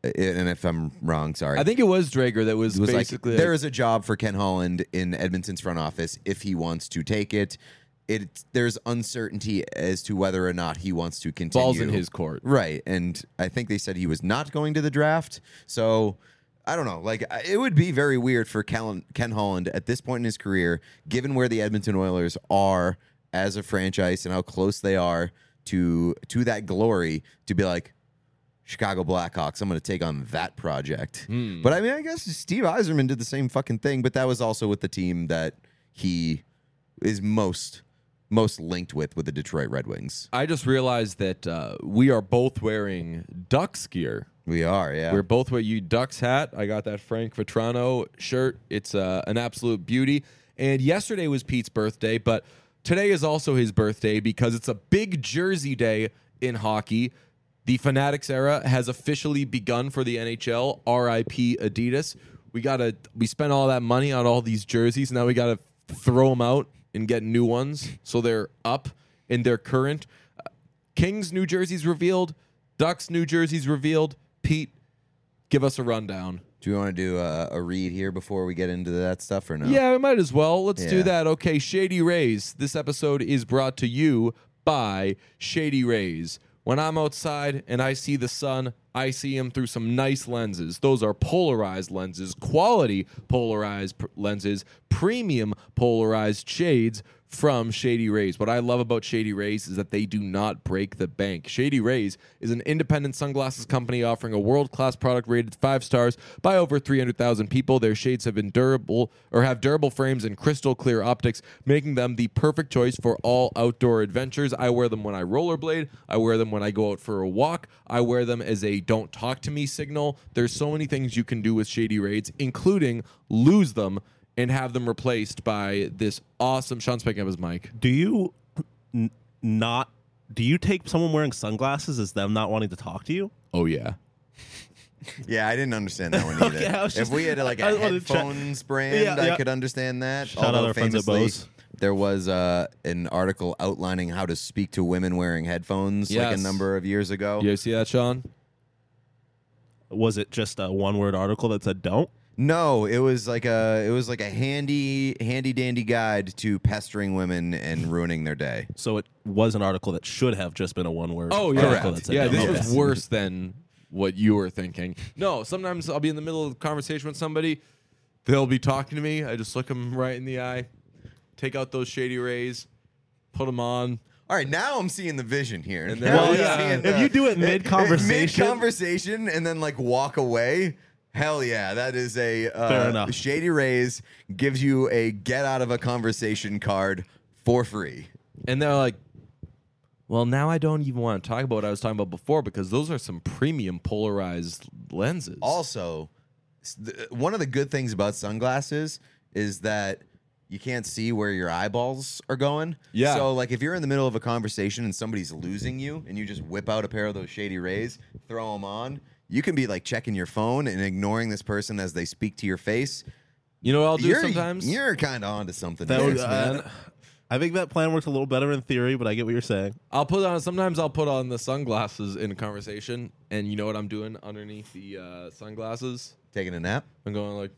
Speaker 2: and if I'm wrong, sorry.
Speaker 1: I think it was Drager that was,
Speaker 2: it was
Speaker 1: basically
Speaker 2: like, there is a job for Ken Holland in Edmonton's front office if he wants to take it. There's uncertainty as to whether or not he wants to continue.
Speaker 1: balls in his court.
Speaker 2: Right. And I think they said he was not going to the draft. So I don't know. Like, it would be very weird for Ken Holland at this point in his career, given where the Edmonton Oilers are as a franchise and how close they are to that glory, to be like, Chicago Blackhawks, I'm going to take on that project. But I mean, I guess Steve Yzerman did the same fucking thing, but that was also with the team that he is most linked with the Detroit Red Wings.
Speaker 1: I just realized that we are both wearing Ducks gear.
Speaker 2: We are, yeah.
Speaker 1: We're both wearing you Ducks hat. I got that Frank Vetrano shirt. It's an absolute beauty. And yesterday was Pete's birthday, but today is also his birthday because it's a big jersey day in hockey. The Fanatics era has officially begun for the NHL. R.I.P. Adidas. We spent all that money on all these jerseys. Now we got to throw them out and get new ones so they're up and they're current. Kings new jerseys revealed. Ducks new jerseys revealed. Pete, give us a rundown.
Speaker 2: Do you want to do a read here before we get into that stuff or no?
Speaker 1: Yeah, we might as well. Let's do
Speaker 2: Yeah.
Speaker 1: that. Okay, Shady Rays. This episode is brought to you by Shady Rays. When I'm outside and I see the sun, I see him through some nice lenses. Those are polarized lenses, quality polarized lenses, premium polarized shades from Shady Rays. What I love about Shady Rays is that they do not break the bank. Shady Rays is an independent sunglasses company offering a world-class product rated 5 stars by over 300,000 people. Their shades have been durable frames and crystal clear optics, making them the perfect choice for all outdoor adventures. I wear them when I rollerblade. I wear them when I go out for a walk. I wear them as a don't talk to me signal. There's so many things you can do with Shady Rays, including lose them and have them replaced by this awesome... Sean's picking up his mic.
Speaker 3: Do you do you take someone wearing sunglasses as them not wanting to talk to you?
Speaker 1: Oh, yeah.
Speaker 2: Yeah, I didn't understand that one either.
Speaker 3: Okay, I was
Speaker 2: if
Speaker 3: just-
Speaker 2: we had like
Speaker 3: I
Speaker 2: a
Speaker 3: wanted to check.
Speaker 2: headphones brand,
Speaker 3: Yeah, yeah.
Speaker 2: I could understand that.
Speaker 3: Shout out
Speaker 2: Although
Speaker 3: our friends at
Speaker 2: famously,
Speaker 3: Bose.
Speaker 2: there was an article outlining how to speak to women wearing headphones like
Speaker 1: Yes.
Speaker 2: a number of years ago.
Speaker 1: You see that, Sean?
Speaker 3: Was it just a one-word article that said don't?
Speaker 2: No, it was like a handy dandy guide to pestering women and ruining their day.
Speaker 3: So it was an article that should have just been a one-word
Speaker 1: Oh, yeah.
Speaker 3: article that said
Speaker 1: Yeah,
Speaker 3: don't.
Speaker 1: this
Speaker 3: Okay.
Speaker 1: was worse than what you were thinking. No, sometimes I'll be in the middle of a conversation with somebody. They'll be talking to me. I just look them right in the eye, take out those Shady Rays, put them on.
Speaker 2: All right, now I'm seeing the vision here.
Speaker 1: And
Speaker 2: Now
Speaker 1: then-
Speaker 2: I'm
Speaker 1: yeah.
Speaker 2: seeing
Speaker 3: If you do it mid-conversation-
Speaker 2: mid-conversation, and then like walk away. Hell yeah, that is a
Speaker 3: Fair enough.
Speaker 2: Shady Rays gives you a get out of a conversation card for free.
Speaker 1: And they're like, well, now I don't even want to talk about what I was talking about before because those are some premium polarized lenses.
Speaker 2: Also, one of the good things about sunglasses is that you can't see where your eyeballs are going.
Speaker 1: Yeah.
Speaker 2: So, like, if you're in the middle of a conversation and somebody's losing you and you just whip out a pair of those Shady Rays, throw them on, you can be, like, checking your phone and ignoring this person as they speak to your face.
Speaker 1: You know what I'll do sometimes?
Speaker 2: You're kind of onto something
Speaker 3: That
Speaker 2: there,
Speaker 3: would,
Speaker 2: man.
Speaker 3: I think that plan works a little better in theory, but I get what you're saying.
Speaker 1: Sometimes I'll put on the sunglasses in a conversation, and you know what I'm doing underneath the sunglasses?
Speaker 2: Taking a nap?
Speaker 1: I'm going like,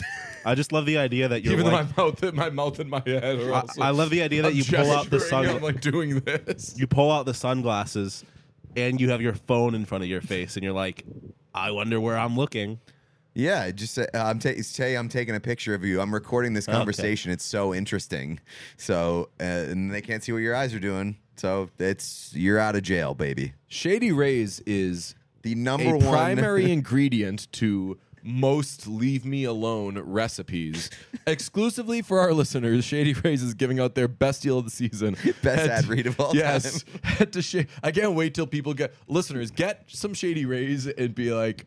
Speaker 3: I just love the idea that you're
Speaker 1: even
Speaker 3: like,
Speaker 1: though my mouth and my head are also.
Speaker 3: I love the idea that
Speaker 1: I'm
Speaker 3: you pull out the
Speaker 1: gesturing, I'm
Speaker 3: sun,
Speaker 1: like doing this.
Speaker 3: you pull out the sunglasses, and you have your phone in front of your face, and you're like, I wonder where I'm looking.
Speaker 2: Yeah, just say I'm taking a picture of you. I'm recording this conversation. It's so interesting. So, and they can't see what your eyes are doing. So you're out of jail, baby.
Speaker 1: Shady Rays is
Speaker 2: The number
Speaker 1: a
Speaker 2: one
Speaker 1: primary ingredient to most leave me alone recipes. Exclusively for our listeners, Shady Rays is giving out their best deal of the season.
Speaker 2: Best ad read of all
Speaker 1: yes,
Speaker 2: time.
Speaker 1: Head to I can't wait till people listeners get some Shady Rays and be like,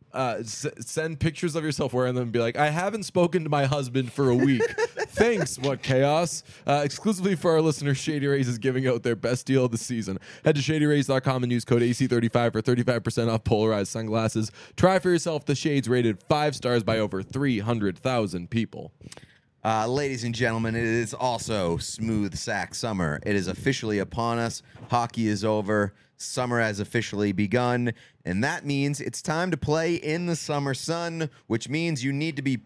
Speaker 1: send pictures of yourself wearing them and be like, I haven't spoken to my husband for a week. Thanks, what chaos. Exclusively for our listeners, Shady Rays is giving out their best deal of the season. Head to shadyrays.com and use code AC35 for 35% off polarized sunglasses. Try for yourself the shades rated 5 stars by over 300,000 people.
Speaker 2: Ladies and gentlemen, it is also Smooth Sack Summer. It is officially upon us. Hockey is over. Summer has officially begun. And that means it's time to play in the summer sun, which means you need to be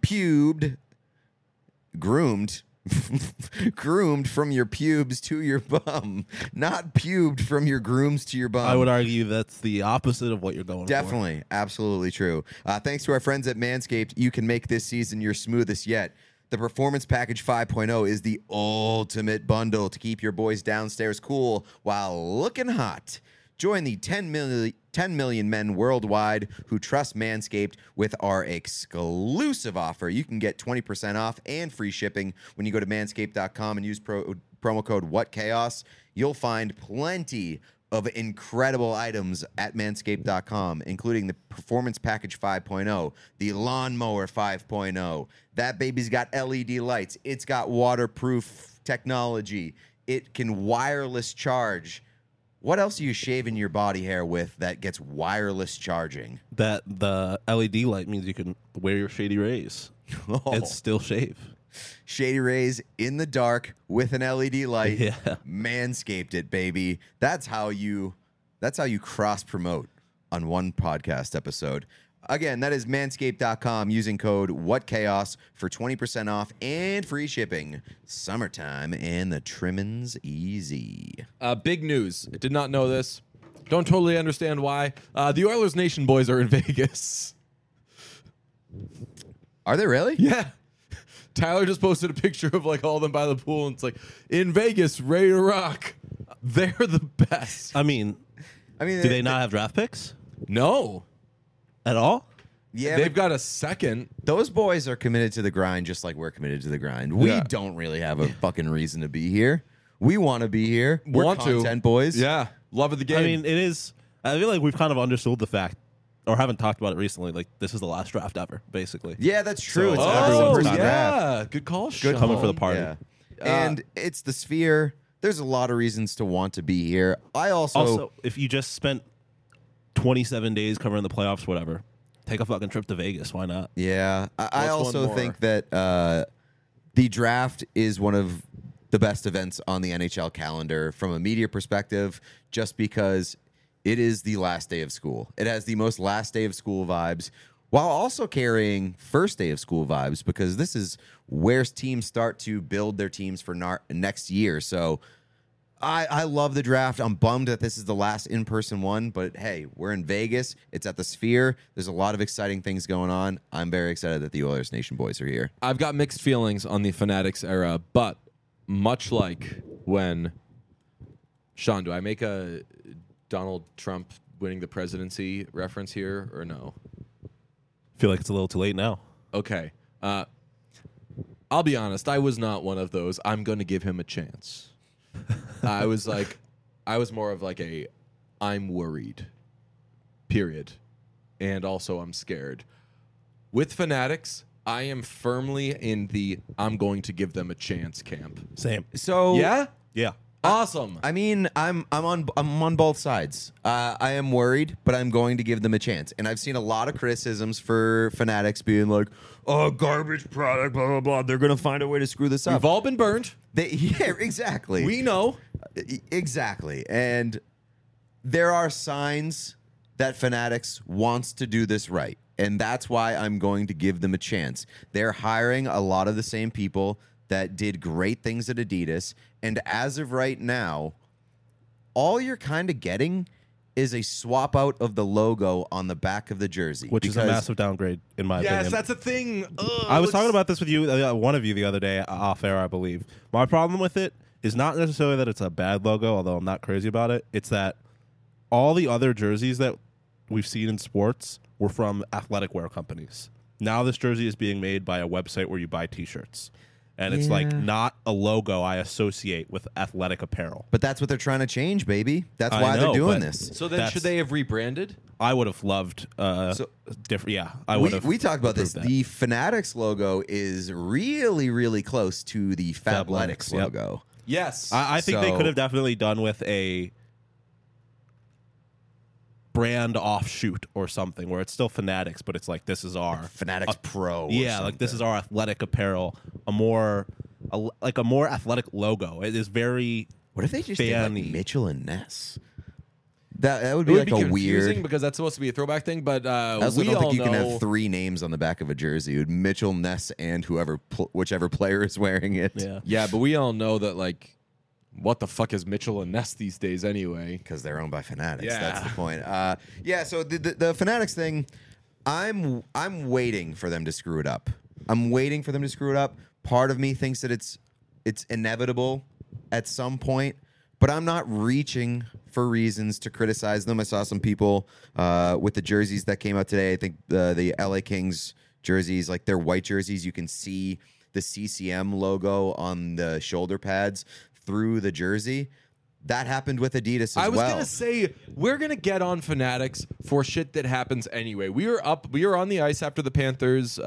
Speaker 2: groomed from your pubes to your bum, not pubed from your grooms to your bum.
Speaker 3: I would argue that's the opposite of what you're going for.
Speaker 2: Definitely. Absolutely true. Thanks to our friends at Manscaped, you can make this season your smoothest yet. The Performance Package 5.0 is the ultimate bundle to keep your boys downstairs cool while looking hot. Join the 10 million men worldwide who trust Manscaped with our exclusive offer. You can get 20% off and free shipping when you go to manscaped.com and use promo code WhatChaos. You'll find plenty of incredible items at manscaped.com, including the Performance Package 5.0, the Lawnmower 5.0. That baby's got LED lights. It's got waterproof technology. It can wireless charge. What else are you shaving your body hair with that gets wireless charging?
Speaker 3: That the LED light means you can wear your Shady Rays and still shave.
Speaker 2: Shady Rays in the dark with an LED light.
Speaker 3: Yeah.
Speaker 2: Manscaped it, baby. That's how you cross promote on one podcast episode. Again, that is manscaped.com using code WhatChaos for 20% off and free shipping. Summertime and the trimming's easy.
Speaker 1: Big news. Did not know this. Don't totally understand why. The Oilers Nation boys are in Vegas.
Speaker 2: Are they really?
Speaker 1: Yeah. Tyler just posted a picture of like all of them by the pool, and it's like, in Vegas, ready to rock. They're the best.
Speaker 3: I mean,
Speaker 2: do
Speaker 3: they not have draft picks
Speaker 1: No.
Speaker 3: at all?
Speaker 2: Yeah,
Speaker 1: They've got a second.
Speaker 2: those boys are committed to the grind just like we're committed to the grind. We
Speaker 1: Yeah.
Speaker 2: don't really have a fucking reason to be here. We want to be here. We're
Speaker 1: Want to.
Speaker 2: content boys.
Speaker 1: Yeah. Love of the game.
Speaker 3: I mean, it is. I feel like we've kind of understood the fact, or haven't talked about it recently. Like, this is the last draft ever, basically.
Speaker 2: Yeah, that's true.
Speaker 3: So
Speaker 2: It's
Speaker 3: everyone's
Speaker 2: everyone's
Speaker 3: not
Speaker 2: draft.
Speaker 1: yeah. Good call, Sean.
Speaker 3: Coming for the party.
Speaker 2: Yeah. And it's the Sphere. There's a lot of reasons to want to be here. I
Speaker 3: Also, if you just spent 27 days covering the playoffs, whatever, take a fucking trip to Vegas. Why not?
Speaker 2: Yeah. I
Speaker 1: What's one
Speaker 2: also
Speaker 1: more?
Speaker 2: think that the draft is one of the best events on the NHL calendar from a media perspective, just because it is the last day of school. It has the most last day of school vibes while also carrying first day of school vibes, because this is where teams start to build their teams for next year. So I love the draft. I'm bummed that this is the last in-person one, but hey, we're in Vegas. It's at the Sphere. There's a lot of exciting things going on. I'm very excited that the Oilers Nation boys are here.
Speaker 1: I've got mixed feelings on the Fanatics era, but much like when Sean, do I make a Donald Trump winning the presidency reference here or no?
Speaker 3: I feel like it's a little too late now.
Speaker 1: Okay. I'll be honest. I was not one of those. I'm going to give him a chance. I was more of like I'm worried, period. And also I'm scared. With Fanatics, I am firmly in the I'm going to give them a chance camp.
Speaker 3: Same.
Speaker 2: So
Speaker 1: Yeah?
Speaker 3: Yeah.
Speaker 1: Awesome.
Speaker 2: I mean, I'm on both sides. I am worried, but I'm going to give them a chance. And I've seen a lot of criticisms for Fanatics being like, "Oh, garbage product, blah blah blah. They're going to find a way to screw this up."
Speaker 1: We've all been burned.
Speaker 2: Yeah, exactly.
Speaker 1: We know.
Speaker 2: Exactly. And there are signs that Fanatics wants to do this right. And that's why I'm going to give them a chance. They're hiring a lot of the same people that did great things at Adidas. And as of right now, all you're kind of getting is a swap out of the logo on the back of the jersey.
Speaker 3: Which is a massive downgrade, in my opinion.
Speaker 1: Yes, that's a thing. Ugh,
Speaker 3: I was talking about this with you, one of you the other day, off air, I believe. My problem with it is not necessarily that it's a bad logo, although I'm not crazy about it. It's that all the other jerseys that we've seen in sports were from athletic wear companies. Now this jersey is being made by a website where you buy T-shirts. And it's like not a logo I associate with athletic apparel.
Speaker 2: But that's what they're trying to change, baby. That's
Speaker 3: I
Speaker 2: why
Speaker 3: know,
Speaker 2: they're doing
Speaker 3: but-
Speaker 2: this.
Speaker 1: So then
Speaker 3: That's-
Speaker 1: should they have rebranded?
Speaker 3: I would have loved different. Yeah, I would have.
Speaker 2: We talked about this.
Speaker 3: approved that.
Speaker 2: The Fanatics logo is really, really close to the Fabletics
Speaker 3: Fabletics, yep.
Speaker 2: logo.
Speaker 1: Yes.
Speaker 3: I think they
Speaker 2: So-
Speaker 3: could have definitely done with a brand offshoot or something where it's still Fanatics, but it's like this is our
Speaker 2: Fanatics Pro. or
Speaker 3: yeah, like this is our athletic apparel, a more athletic logo. It is very
Speaker 2: What if they just did like
Speaker 3: fanny.
Speaker 2: Mitchell and Ness? That would
Speaker 1: It
Speaker 2: be
Speaker 1: would
Speaker 2: like
Speaker 1: be
Speaker 2: a
Speaker 1: confusing
Speaker 2: weird.
Speaker 1: because that's supposed to be a throwback thing, but
Speaker 2: I also
Speaker 1: we
Speaker 2: don't
Speaker 1: all
Speaker 2: think you
Speaker 1: know.
Speaker 2: can have 3 names on the back of a jersey. It would Mitchell, Ness, and whichever player is wearing it.
Speaker 3: yeah.
Speaker 1: Yeah, but we all know that like, what the fuck is Mitchell and Ness these days anyway?
Speaker 2: Because they're owned by Fanatics.
Speaker 1: Yeah.
Speaker 2: That's the point. Yeah. So the Fanatics thing, I'm waiting for them to screw it up. I'm waiting for them to screw it up. Part of me thinks that it's inevitable at some point, but I'm not reaching for reasons to criticize them. I saw some people with the jerseys that came out today. I think the LA Kings jerseys, like their white jerseys, you can see the CCM logo on the shoulder pads through the jersey. That happened with Adidas as well.
Speaker 1: I was gonna say we're gonna get on Fanatics for shit that happens anyway. We were on the ice after the Panthers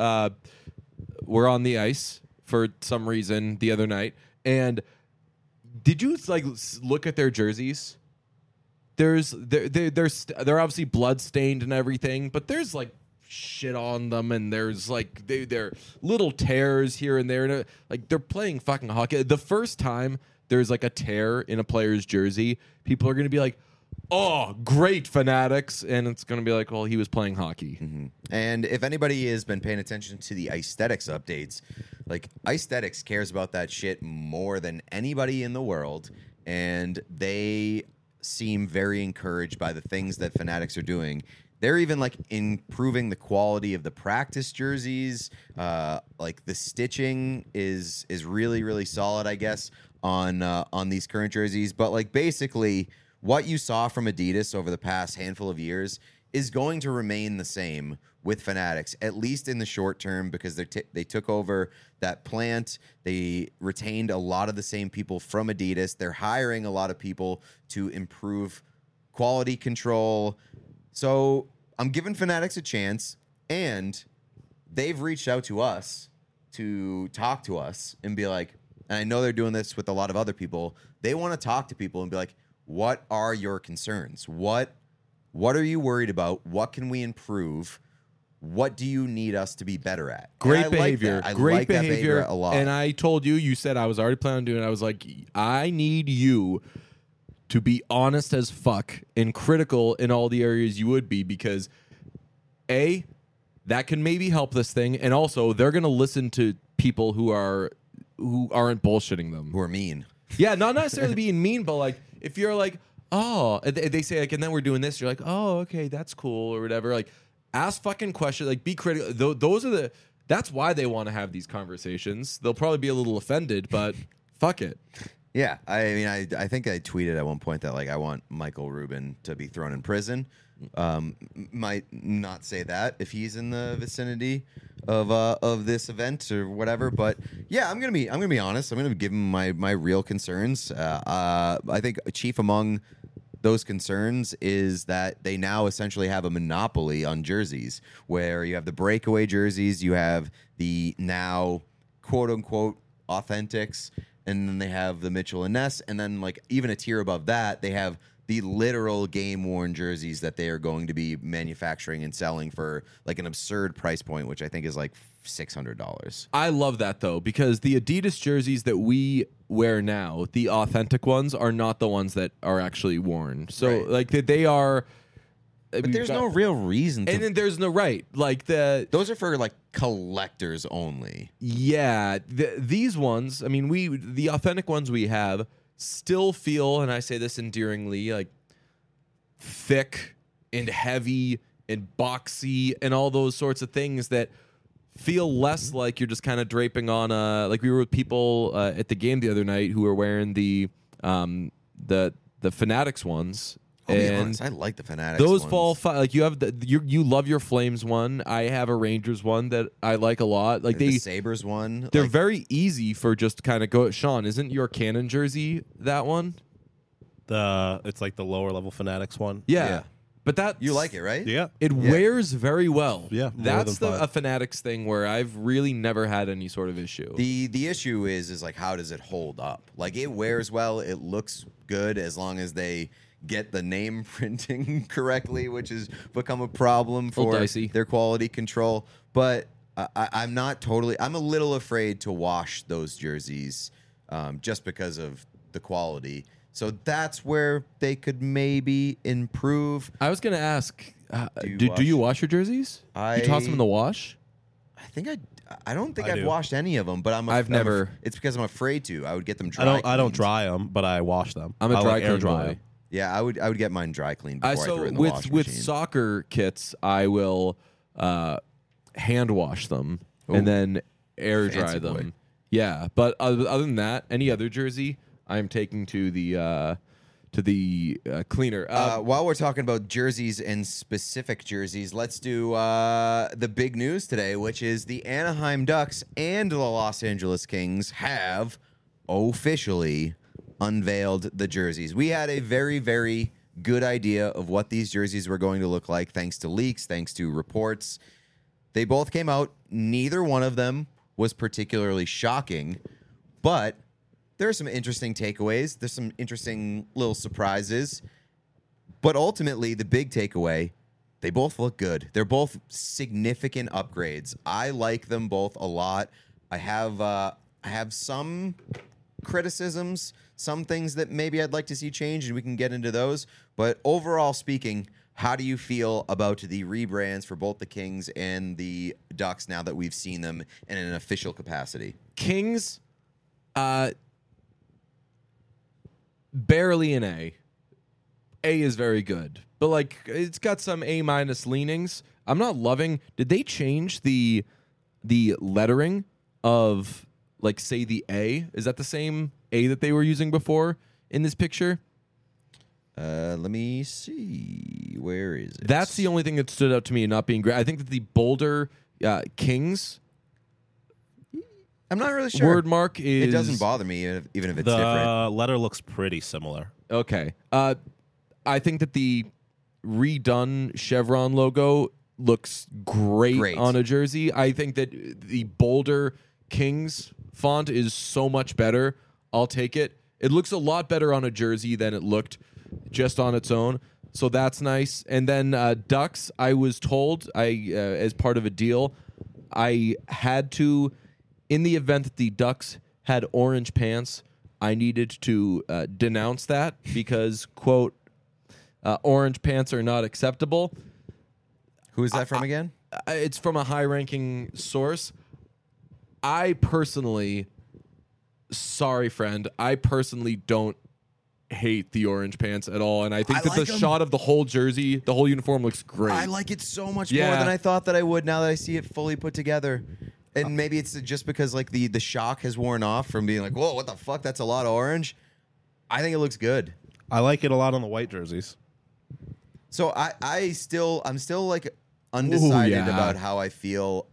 Speaker 1: were on the ice for some reason the other night. And did you like look at their jerseys? They're obviously blood stained and everything, but there's like shit on them, and there's like they're little tears here and there, and like they're playing fucking hockey. The first time there's like a tear in a player's jersey, people are gonna be like, "Oh, great, Fanatics," and it's gonna be like, "Well, he was playing hockey."
Speaker 2: Mm-hmm. And if anybody has been paying attention to the Aesthetics updates, like Aesthetics cares about that shit more than anybody in the world, and they seem very encouraged by the things that Fanatics are doing. They're even like improving the quality of the practice jerseys. Like the stitching is really, really solid, I guess, on these current jerseys. But like basically what you saw from Adidas over the past handful of years is going to remain the same with Fanatics, at least in the short term, because they took over that plant. They retained a lot of the same people from Adidas. They're hiring a lot of people to improve quality control. So I'm giving Fanatics a chance, and they've reached out to us to talk to us and be like, and I know they're doing this with a lot of other people, they want to talk to people and be like, what are your concerns? What are you worried about? What can we improve? What do you need us to be better at?
Speaker 1: Great behavior.
Speaker 2: Great
Speaker 1: Great behavior
Speaker 2: a lot.
Speaker 1: And I told you, you said I was already planning on doing it. I was like, I need you to be honest as fuck and critical in all the areas you would be, because A, that can maybe help this thing, and also they're gonna listen to people who aren't bullshitting them.
Speaker 2: who are mean.
Speaker 1: Yeah, not necessarily being mean, but like if you're like, oh, they say like, and then we're doing this, you're like, oh, okay, that's cool or whatever. Like, ask fucking questions, like be critical. That's why they want to have these conversations. They'll probably be a little offended, but fuck it.
Speaker 2: Yeah, I mean, I think I tweeted at one point that like I want Michael Rubin to be thrown in prison. Might not say that if he's in the vicinity of this event or whatever, but yeah, I'm gonna be honest. I'm gonna give him my real concerns. I think chief among those concerns is that they now essentially have a monopoly on jerseys, where you have the breakaway jerseys, you have the now quote unquote authentics, and then they have the Mitchell and Ness, and then like even a tier above that, they have the literal game worn jerseys that they are going to be manufacturing and selling for like an absurd price point, which I think is like $600.
Speaker 1: I love that though, because the Adidas jerseys that we wear now, the authentic ones, are not the ones that are actually worn. So
Speaker 2: Right.
Speaker 1: like they are.
Speaker 2: But there's no real reason to.
Speaker 1: And then there's no right. Like
Speaker 2: Those are for like collectors only.
Speaker 1: Yeah, these ones, I mean, the authentic ones we have still feel, and I say this endearingly, like thick and heavy and boxy and all those sorts of things that feel less like you're just kind of draping on like we were with people at the game the other night who were wearing the Fanatics ones.
Speaker 2: I'll be
Speaker 1: And
Speaker 2: honest, I like the Fanatics.
Speaker 1: those
Speaker 2: ones.
Speaker 1: fall like you have you love your Flames one. I have a Rangers one that I like a lot. Like
Speaker 2: the Sabres one.
Speaker 1: they're
Speaker 2: like,
Speaker 1: very easy for just kind of go. Sean, isn't your Cannon jersey that one?
Speaker 3: It's like the lower level Fanatics one.
Speaker 2: Yeah.
Speaker 1: But that
Speaker 2: you like it, right?
Speaker 3: Yeah.
Speaker 1: It wears very well.
Speaker 3: Yeah, more
Speaker 1: that's
Speaker 3: than five.
Speaker 1: a Fanatics thing where I've really never had any sort of issue.
Speaker 2: The issue is like how does it hold up? Like it wears well, it looks good as long as they get the name printing correctly, which has become a problem for
Speaker 1: dicey.
Speaker 2: their quality control. But I'm not totally. I'm a little afraid to wash those jerseys just because of the quality. So that's where they could maybe improve.
Speaker 1: I was going to ask,
Speaker 2: Do you
Speaker 1: do you wash your jerseys? You toss them in the wash?
Speaker 2: I don't think
Speaker 3: I
Speaker 2: I've
Speaker 3: do.
Speaker 2: washed any of them, but
Speaker 1: I've never.
Speaker 2: It's because I'm afraid to. I would get them dry.
Speaker 3: I don't
Speaker 2: cleaned.
Speaker 3: dry them, but I wash them.
Speaker 1: I'm a
Speaker 3: I
Speaker 1: dry
Speaker 3: like air
Speaker 1: clean
Speaker 3: dry
Speaker 1: boy.
Speaker 3: 'em.
Speaker 2: Yeah, I would get mine dry cleaned before I threw it in the
Speaker 1: with
Speaker 2: washing
Speaker 1: with
Speaker 2: machine.
Speaker 1: soccer kits, I will hand wash them and
Speaker 2: Ooh.
Speaker 1: then air dry
Speaker 2: Fancy boy.
Speaker 1: them. Yeah, but other than that, any other jersey, I'm taking to the cleaner.
Speaker 2: While we're talking about jerseys and specific jerseys, let's do the big news today, which is the Anaheim Ducks and the Los Angeles Kings have officially unveiled the jerseys. We had a very, very good idea of what these jerseys were going to look like, thanks to leaks, thanks to reports. They both came out. Neither one of them was particularly shocking, but there are some interesting takeaways. There's some interesting little surprises. But ultimately, the big takeaway, they both look good. They're both significant upgrades. I like them both a lot. I have some criticisms, some things that maybe I'd like to see change, and we can get into those. But overall speaking, how do you feel about the rebrands for both the Kings and the Ducks now that we've seen them in an official capacity?
Speaker 1: Kings, barely an A. A is very good, but like it's got some A- leanings. I'm not loving. Did they change the lettering of, like, say, the A? Is that the same A that they were using before in this picture?
Speaker 2: Let me see. Where is it?
Speaker 1: That's the only thing that stood out to me not being great. I think that the bolder Kings
Speaker 2: I'm not really sure.
Speaker 1: word mark is.
Speaker 2: It doesn't bother me even if it's
Speaker 3: The
Speaker 2: different.
Speaker 3: letter looks pretty similar.
Speaker 1: Okay. I think that the redone chevron logo looks great on a jersey. I think that the bolder Kings font is so much better. I'll take it. It looks a lot better on a jersey than it looked just on its own. So that's nice. And then Ducks, I was told, as part of a deal, I had to, in the event that the Ducks had orange pants, I needed to denounce that because, quote, orange pants are not acceptable.
Speaker 2: Who is that from again?
Speaker 1: It's from a high-ranking source. I personally, sorry, friend, I personally don't hate the orange pants at all, and I think
Speaker 2: I
Speaker 1: that
Speaker 2: like
Speaker 1: the
Speaker 2: 'em.
Speaker 1: shot of the whole jersey, the whole uniform looks great.
Speaker 2: I like it so much more
Speaker 1: Yeah.
Speaker 2: than I thought that I would now that I see it fully put together. And maybe it's just because like the shock has worn off from being like, whoa, what the fuck? That's a lot of orange. I think it looks good.
Speaker 3: I like it a lot on the white jerseys.
Speaker 2: So I'm still like undecided
Speaker 1: yeah.
Speaker 2: about how I feel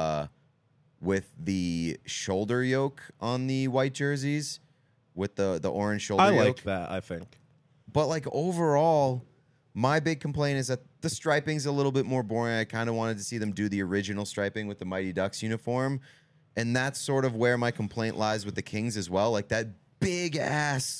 Speaker 2: with the shoulder yoke on the white jerseys with the orange shoulder
Speaker 3: I
Speaker 2: yoke.
Speaker 3: like that, I think.
Speaker 2: But like overall, my big complaint is that the striping's a little bit more boring. I kind of wanted to see them do the original striping with the Mighty Ducks uniform. And that's sort of where my complaint lies with the Kings as well. Like that big ass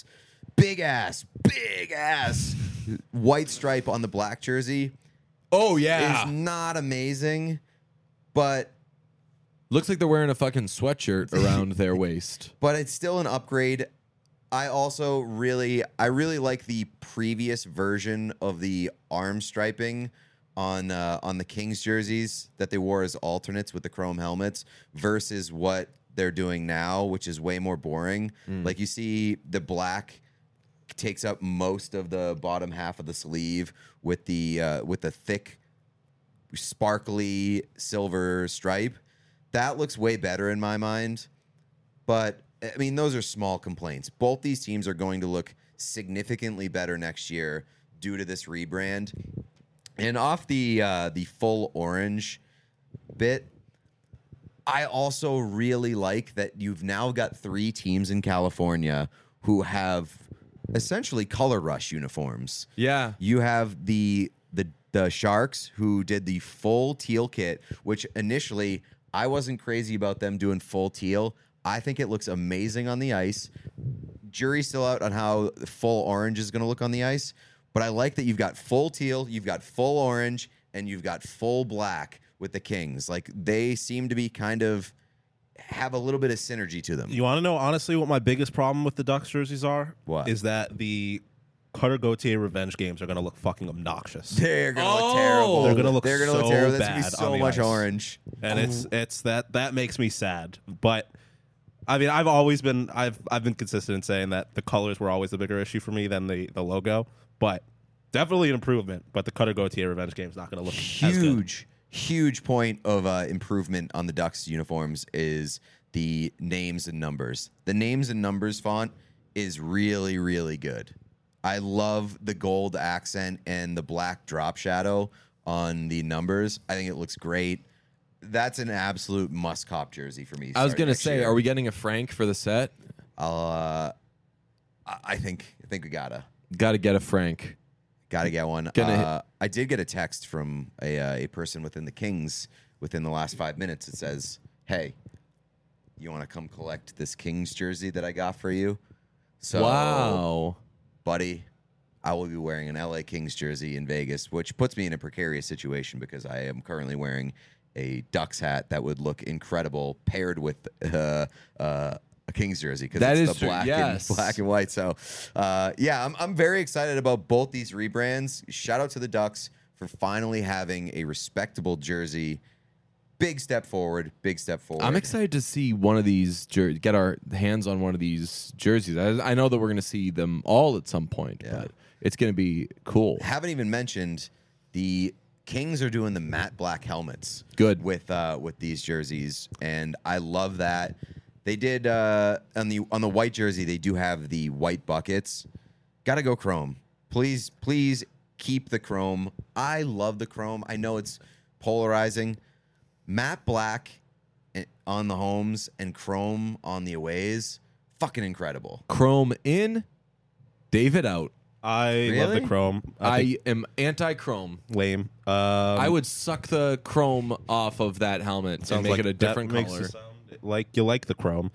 Speaker 2: white stripe on the black jersey
Speaker 1: oh, yeah.
Speaker 2: is not amazing, but
Speaker 1: Looks like they're wearing a fucking sweatshirt around their waist.
Speaker 2: but it's still an upgrade. I also really like the previous version of the arm striping on the Kings jerseys that they wore as alternates with the chrome helmets versus what they're doing now, which is way more boring. Like you see the black takes up most of the bottom half of the sleeve with the thick sparkly silver stripe. That looks way better in my mind. But I mean, those are small complaints. Both these teams are going to look significantly better next year due to this rebrand. And off the full orange bit, I also really like that you've now got 3 teams in California who have essentially color rush uniforms.
Speaker 1: Yeah.
Speaker 2: You have the Sharks who did the full teal kit, which initially I wasn't crazy about them doing full teal. I think it looks amazing on the ice. Jury's still out on how full orange is going to look on the ice, But I like that you've got full teal, you've got full orange, and you've got full black with the Kings. Like, they seem to be kind of have a little bit of synergy to them.
Speaker 3: You want to know honestly what my biggest problem with the Ducks jerseys are?
Speaker 2: What?
Speaker 3: Is that the Cutter Gauthier revenge games are going to look fucking obnoxious.
Speaker 2: They're gonna look terrible.
Speaker 3: They're gonna look
Speaker 2: look
Speaker 3: so
Speaker 2: terrible. There's
Speaker 3: bad
Speaker 2: gonna be so
Speaker 3: on the
Speaker 2: much
Speaker 3: ice.
Speaker 2: orange.
Speaker 3: And it's that makes me sad. But I mean, I've been consistent in saying that the colors were always the bigger issue for me than the logo. But definitely an improvement. But the Cutter Gauthier revenge game is not going to look as good.
Speaker 2: Huge point of improvement on the Ducks uniforms is the names and numbers. The names and numbers font is really, really good. I love the gold accent and the black drop shadow on the numbers. I think it looks great. That's an absolute must-cop jersey for me.
Speaker 1: I was
Speaker 2: going
Speaker 1: gonna say, are we getting a Frank for the set?
Speaker 2: I think we gotta
Speaker 1: Get a Frank.
Speaker 2: get one. I did get a text from a person within the Kings within the last 5 minutes. It says, "Hey, you want to come collect this Kings jersey that I got for you?" So,
Speaker 1: Wow.
Speaker 2: buddy, I will be wearing an LA Kings jersey in Vegas, which puts me in a precarious situation because I am currently wearing a Ducks hat that would look incredible paired with a Kings jersey because
Speaker 1: That
Speaker 2: it's
Speaker 1: is
Speaker 2: the
Speaker 1: true, yes.
Speaker 2: black and white. So, yeah, I'm very excited about both these rebrands. Shout out to the Ducks for finally having a respectable jersey. Big step forward. Big step forward.
Speaker 1: I'm excited to see one of these get our hands on one of these jerseys. I know that we're going to see them all at some point, but it's going to be cool.
Speaker 2: Haven't even mentioned the Kings are doing the matte black helmets.
Speaker 1: Good.
Speaker 2: with these jerseys, and I love that. They did on the white jersey. They do have the white buckets. Got to go chrome. Please keep the chrome. I love the chrome. I know it's polarizing. Matte black on the homes and chrome on the aways. Fucking incredible.
Speaker 1: Chrome in, David out.
Speaker 3: I love
Speaker 2: Really?
Speaker 3: the chrome.
Speaker 1: I am anti-chrome.
Speaker 3: Lame.
Speaker 1: I would suck the chrome off of that helmet and make it a different
Speaker 3: that
Speaker 1: color.
Speaker 3: Makes you sound like you like the chrome.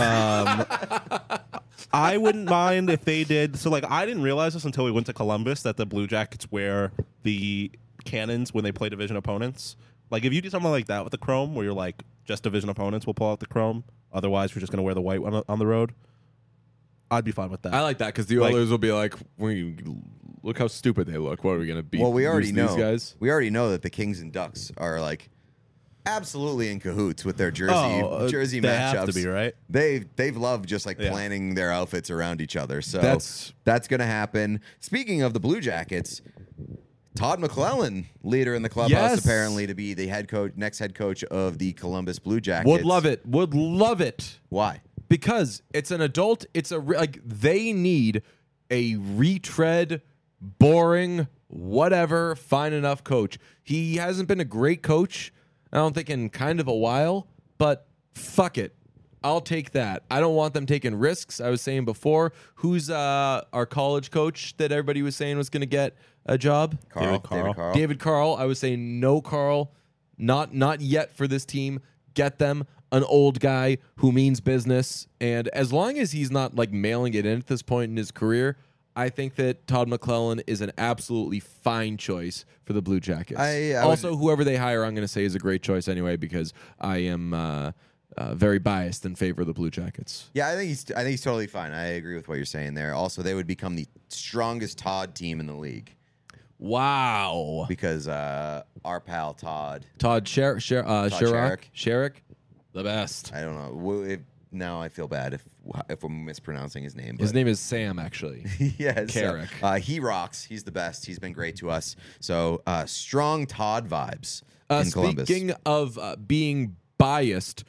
Speaker 3: I wouldn't mind if they did. So, like, I didn't realize this until we went to Columbus that the Blue Jackets wear the cannons when they play division opponents. Like, if you do something like that with the chrome, where you're like, just division opponents will pull out the chrome, otherwise we're just going to wear the white one on the road, I'd be fine with that.
Speaker 1: I like that because the Oilers will be like, look how stupid they look. What are we going to be?
Speaker 2: Well, we already know
Speaker 1: these guys.
Speaker 2: We already know that the Kings and Ducks are like absolutely in cahoots with their jersey
Speaker 3: they
Speaker 2: matchups.
Speaker 3: have to be, right?
Speaker 2: They've loved just like
Speaker 3: Yeah.
Speaker 2: planning their outfits around each other. So
Speaker 1: That's
Speaker 2: gonna happen. Speaking of the Blue Jackets, Todd McClellan, leader in the clubhouse,
Speaker 1: Yes.
Speaker 2: apparently to be the next head coach of the Columbus Blue Jackets.
Speaker 1: Would love it. Would love it.
Speaker 2: Why?
Speaker 1: Because it's an adult. It's they need a retread, boring, whatever, fine enough coach. He hasn't been a great coach, I don't think, in kind of a while, but fuck it. I'll take that. I don't want them taking risks. I was saying before, who's our college coach that everybody was saying was going to get a job?
Speaker 2: David
Speaker 3: Carl.
Speaker 2: Carl.
Speaker 1: David Carl. I was saying no Carl, not yet for this team. Get them an old guy who means business, and as long as he's not like mailing it in at this point in his career, I think that Todd McClellan is an absolutely fine choice for the Blue Jackets. Also, whoever they hire, I'm going to say is a great choice anyway because I am very biased in favor of the Blue Jackets.
Speaker 2: Yeah, I think he's totally fine. I agree with what you're saying there. Also, they would become the strongest Todd team in the league
Speaker 1: Wow.
Speaker 2: because our pal Todd.
Speaker 1: Sherrick, the best.
Speaker 2: I don't know. Now I feel bad if we're mispronouncing his name.
Speaker 1: His
Speaker 2: but-
Speaker 1: name is Sam, actually.
Speaker 2: yes,
Speaker 1: Carrick.
Speaker 2: He rocks. He's the best. He's been great to us. So strong Todd vibes in Columbus.
Speaker 1: Speaking of being biased,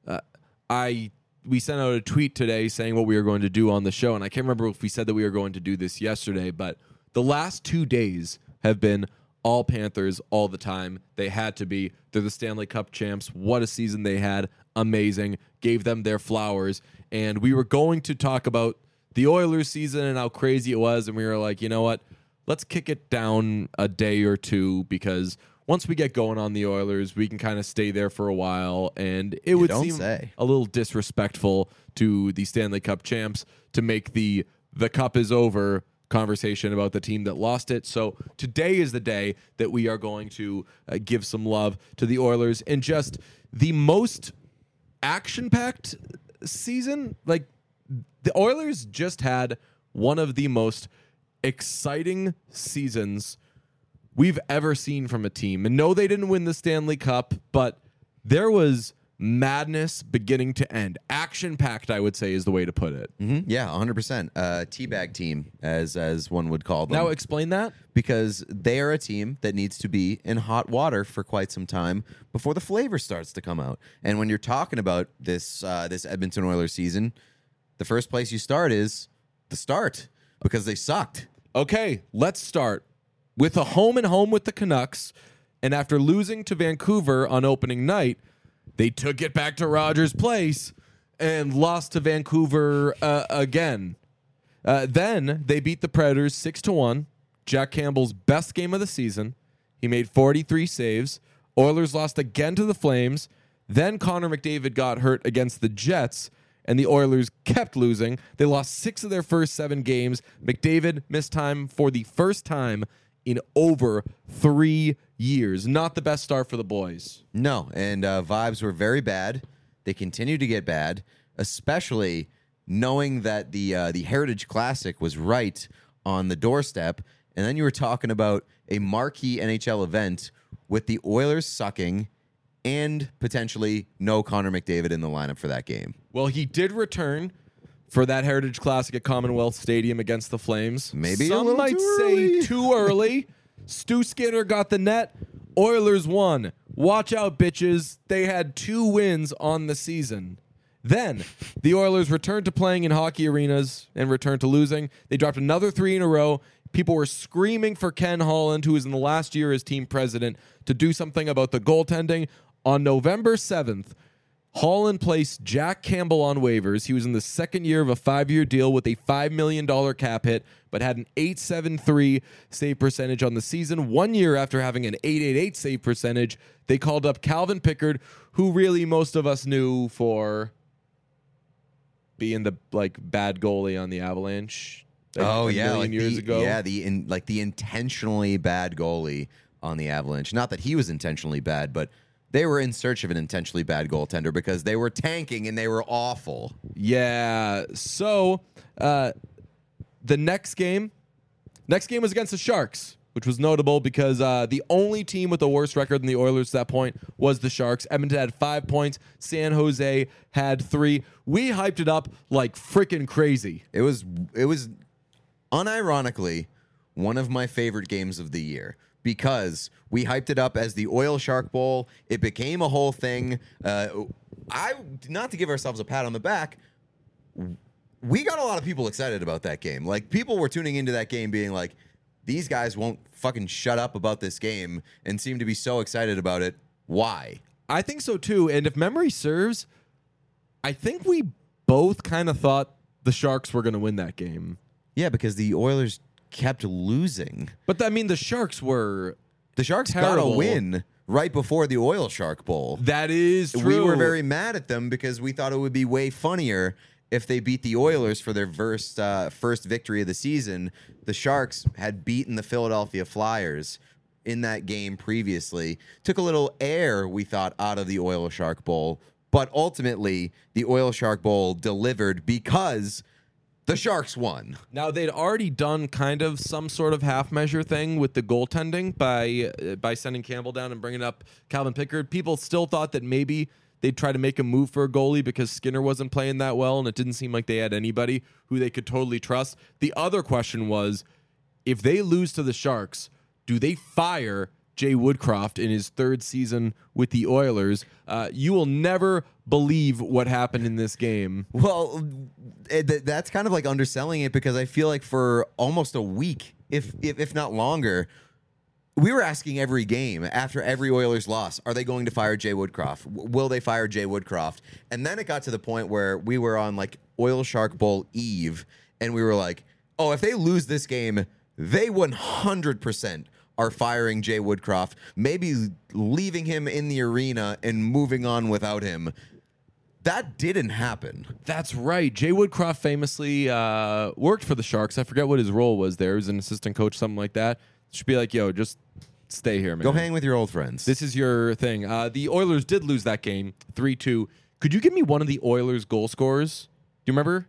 Speaker 1: we sent out a tweet today saying what we were going to do on the show, and I can't remember if we said that we were going to do this yesterday, but the last 2 days have been all Panthers all the time. They had to be. They're the Stanley Cup champs. What a season they had. Amazing. Gave them their flowers. And we were going to talk about the Oilers season and how crazy it was, and we were like, you know what? Let's kick it down a day or two because once we get going on the Oilers, we can kind of stay there for a while, and it would
Speaker 2: don't
Speaker 1: seem
Speaker 2: say.
Speaker 1: a little disrespectful to the Stanley Cup champs to make the cup is over conversation about the team that lost it. So today is the day that we are going to give some love to the Oilers in just the most action-packed season. Like, the Oilers just had one of the most exciting seasons we've ever seen from a team. And no, they didn't win the Stanley Cup, but there was madness beginning to end. Action-packed, I would say, is the way to put it.
Speaker 2: Mm-hmm. Yeah, 100%. Teabag team, as one would call them.
Speaker 1: Now explain that.
Speaker 2: Because they are a team that needs to be in hot water for quite some time before the flavor starts to come out. And when you're talking about this Edmonton Oilers season, the first place you start is the start, because they sucked.
Speaker 1: Okay, let's start with a home and home with the Canucks. And after losing to Vancouver on opening night, they took it back to Rogers Place and lost to Vancouver again. Then they beat the Predators 6-1. Jack Campbell's best game of the season. He made 43 saves. Oilers lost again to the Flames. Then Connor McDavid got hurt against the Jets, and the Oilers kept losing. They lost 6 of their first 7 games. McDavid missed time for the first time in over 3 years. Not the best start for the boys.
Speaker 2: No, and vibes were very bad. They continue to get bad, especially knowing that the Heritage Classic was right on the doorstep. And then you were talking about a marquee NHL event with the Oilers sucking and potentially no Connor McDavid in the lineup for that game.
Speaker 1: Well, he did return for that Heritage Classic at Commonwealth Stadium against the Flames.
Speaker 2: Maybe
Speaker 1: some
Speaker 2: a little
Speaker 1: might
Speaker 2: too
Speaker 1: say
Speaker 2: early.
Speaker 1: too early. Stu Skinner got the net. Oilers won. Watch out, bitches. They had 2 wins on the season. Then the Oilers returned to playing in hockey arenas and returned to losing. They dropped another 3 in a row. People were screaming for Ken Holland, who is in the last year as team president, to do something about the goaltending. On November 7th, Holland placed Jack Campbell on waivers. He was in the second year of a 5-year deal with a $5 million cap hit, but had an .873 save percentage on the season. 1 year after having an .888 save percentage, they called up Calvin Pickard, who really most of us knew for being the bad goalie on the Avalanche. A million years ago.
Speaker 2: Yeah, the intentionally bad goalie on the Avalanche. Not that he was intentionally bad, but they were in search of an intentionally bad goaltender because they were tanking and they were awful.
Speaker 1: Yeah. So the next game was against the Sharks, which was notable because the only team with a worse record than the Oilers at that point was the Sharks. Edmonton had 5 points. San Jose had 3. We hyped it up like freaking crazy.
Speaker 2: It was unironically one of my favorite games of the year, because we hyped it up as the Oil Shark Bowl. It became a whole thing. Not to give ourselves a pat on the back, we got a lot of people excited about that game. Like, people were tuning into that game being like, these guys won't fucking shut up about this game, and seem to be so excited about it. Why?
Speaker 1: I think so too. And if memory serves, I think we both kind of thought the Sharks were going to win that game.
Speaker 2: Yeah, because the Oilers kept losing.
Speaker 1: But I mean, the Sharks were
Speaker 2: The Sharks got
Speaker 1: terrible.
Speaker 2: a win right before the Oil Shark Bowl.
Speaker 1: That is true.
Speaker 2: We were very mad at them because we thought it would be way funnier if they beat the Oilers for their first victory of the season. The Sharks had beaten the Philadelphia Flyers in that game previously. Took a little air, we thought, out of the Oil Shark Bowl. But ultimately, the Oil Shark Bowl delivered because the Sharks won.
Speaker 1: Now, they'd already done kind of some sort of half-measure thing with the goaltending by sending Campbell down and bringing up Calvin Pickard. People still thought that maybe they'd try to make a move for a goalie because Skinner wasn't playing that well, and it didn't seem like they had anybody who they could totally trust. The other question was, if they lose to the Sharks, do they fire Jay Woodcroft in his 3rd season with the Oilers? You will never believe what happened in this game.
Speaker 2: Well, that's kind of like underselling it, because I feel like for almost a week, if not longer, we were asking every game after every Oilers loss, are they going to fire Jay Woodcroft? Will they fire Jay Woodcroft? And then it got to the point where we were on like Oil Shark Bowl Eve, and we were like, oh, if they lose this game, they 100% are firing Jay Woodcroft, maybe leaving him in the arena and moving on without him. that didn't happen.
Speaker 1: That's right. Jay Woodcroft famously worked for the Sharks. I forget what his role was there. He was an assistant coach, something like that. Should be like, yo, just stay here, man.
Speaker 2: Go hang with your old friends.
Speaker 1: This is your thing. The Oilers did lose that game 3-2. Could you give me one of the Oilers goal scorers? Do you remember?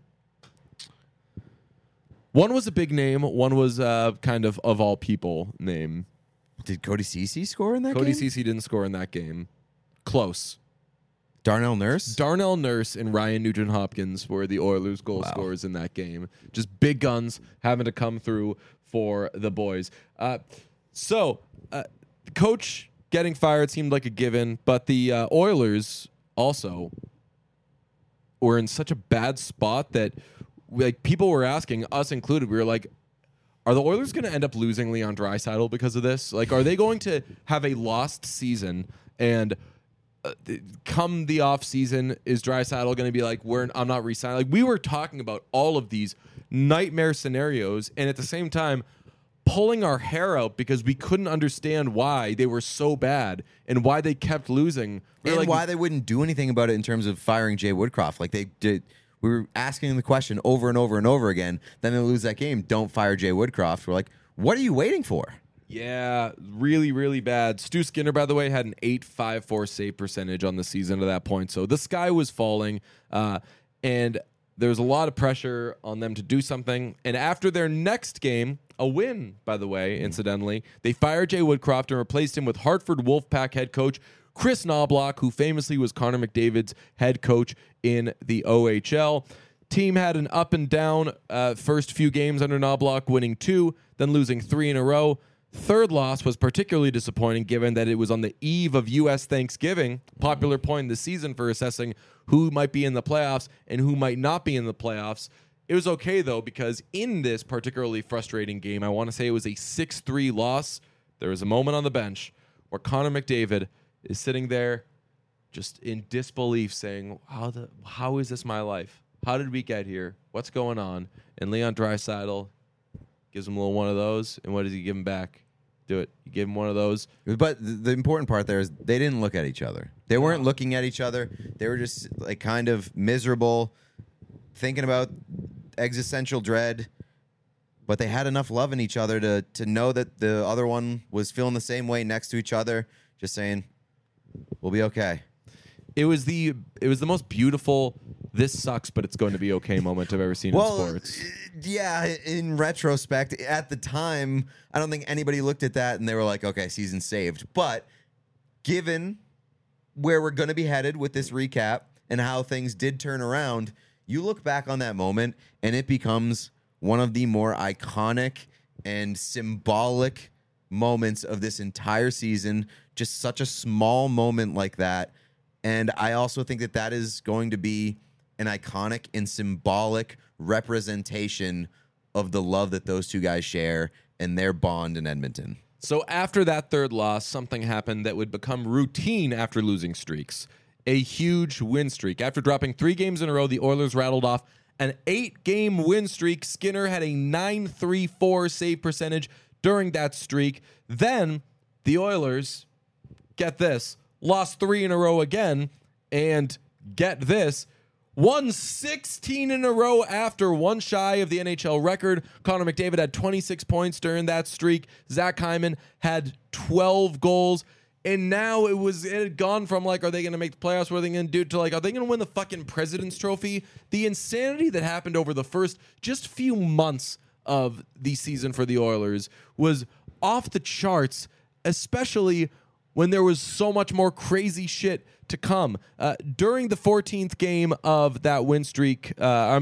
Speaker 1: One was a big name. One was kind of all people name.
Speaker 2: Did Cody Ceci score in that
Speaker 1: Cody
Speaker 2: game?
Speaker 1: Ceci didn't score in that game. Close.
Speaker 2: Darnell Nurse?
Speaker 1: Darnell Nurse and Ryan Nugent-Hopkins were the Oilers' goal scorers in that game. Just big guns having to come through for the boys. Coach getting fired seemed like a given, but the Oilers also were in such a bad spot that people were asking, us included, we were like, are the Oilers going to end up losing Leon Draisaitl because of this? Like, are they going to have a lost season and come the off season, is Draisaitl going to be like, I'm not re-signing? Like, we were talking about all of these nightmare scenarios, and at the same time, pulling our hair out because we couldn't understand why they were so bad and why they kept losing.
Speaker 2: And why they wouldn't do anything about it in terms of firing Jay Woodcroft. Like, they did. We were asking the question over and over and over again. Then they lose that game. Don't fire Jay Woodcroft. We're like, what are you waiting for?
Speaker 1: Yeah, really, really bad. Stu Skinner, by the way, had an .854 save percentage on the season at that point. So the sky was falling, and there was a lot of pressure on them to do something. And after their next game, a win, by the way, incidentally, they fired Jay Woodcroft and replaced him with Hartford Wolfpack head coach Chris Knobloch, who famously was Connor McDavid's head coach in the OHL. Team had an up and down first few games under Knobloch, winning 2, then losing 3 in a row. Third loss was particularly disappointing given that it was on the eve of U.S. Thanksgiving, popular point in the season for assessing who might be in the playoffs and who might not be in the playoffs. It was okay, though, because in this particularly frustrating game, I want to say it was a 6-3 loss. There was a moment on the bench where Connor McDavid is sitting there just in disbelief saying, how is this my life? How did we get here? What's going on? And Leon Draisaitl gives him a little one of those. And what does he give him back? Do it. You give him one of those.
Speaker 2: But the important part there is they didn't look at each other. They weren't looking at each other. They were just like kind of miserable, thinking about existential dread. But they had enough love in each other to know that the other one was feeling the same way next to each other, just saying, we'll be okay.
Speaker 1: It was the most beautiful, this sucks, but it's going to be okay moment I've ever seen in sports.
Speaker 2: Yeah, in retrospect, at the time, I don't think anybody looked at that and they were like, okay, season saved. But given where we're going to be headed with this recap and how things did turn around, you look back on that moment and it becomes one of the more iconic and symbolic moments of this entire season. Just such a small moment like that. And I also think that that is going to be an iconic and symbolic representation of the love that those two guys share and their bond in Edmonton.
Speaker 1: So after that third loss, something happened that would become routine after losing streaks. A huge win streak. After dropping 3 games in a row, the Oilers rattled off an 8-game win streak. Skinner had a .934 save percentage during that streak. Then the Oilers, get this, lost 3 in a row again, and get this, won 16 in a row after, one shy of the NHL record. Connor McDavid had 26 points during that streak. Zach Hyman had 12 goals. And now it had gone from like, are they going to make the playoffs? What are they going to do? To like, are they going to win the fucking President's Trophy? The insanity that happened over the first just few months of the season for the Oilers was off the charts, especially when there was so much more crazy shit to come. During the 14th game of that win streak,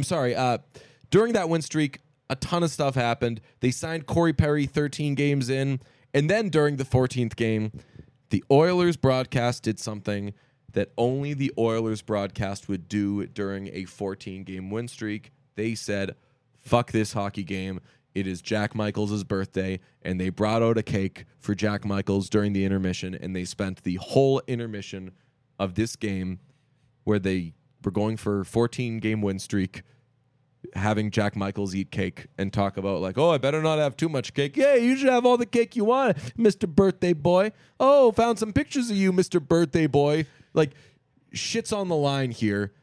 Speaker 1: during that win streak, a ton of stuff happened. They signed Corey Perry 13 games in, and then during the 14th game, the Oilers broadcast did something that only the Oilers broadcast would do during a 14-game win streak. They said, fuck this hockey game. It is Jack Michaels' birthday, and they brought out a cake for Jack Michaels during the intermission, and they spent the whole intermission of this game where they were going for a 14-game win streak, having Jack Michaels eat cake and talk about like, oh, I better not have too much cake. Yeah, you should have all the cake you want, Mr. Birthday Boy. Oh, found some pictures of you, Mr. Birthday Boy. Like, shit's on the line here.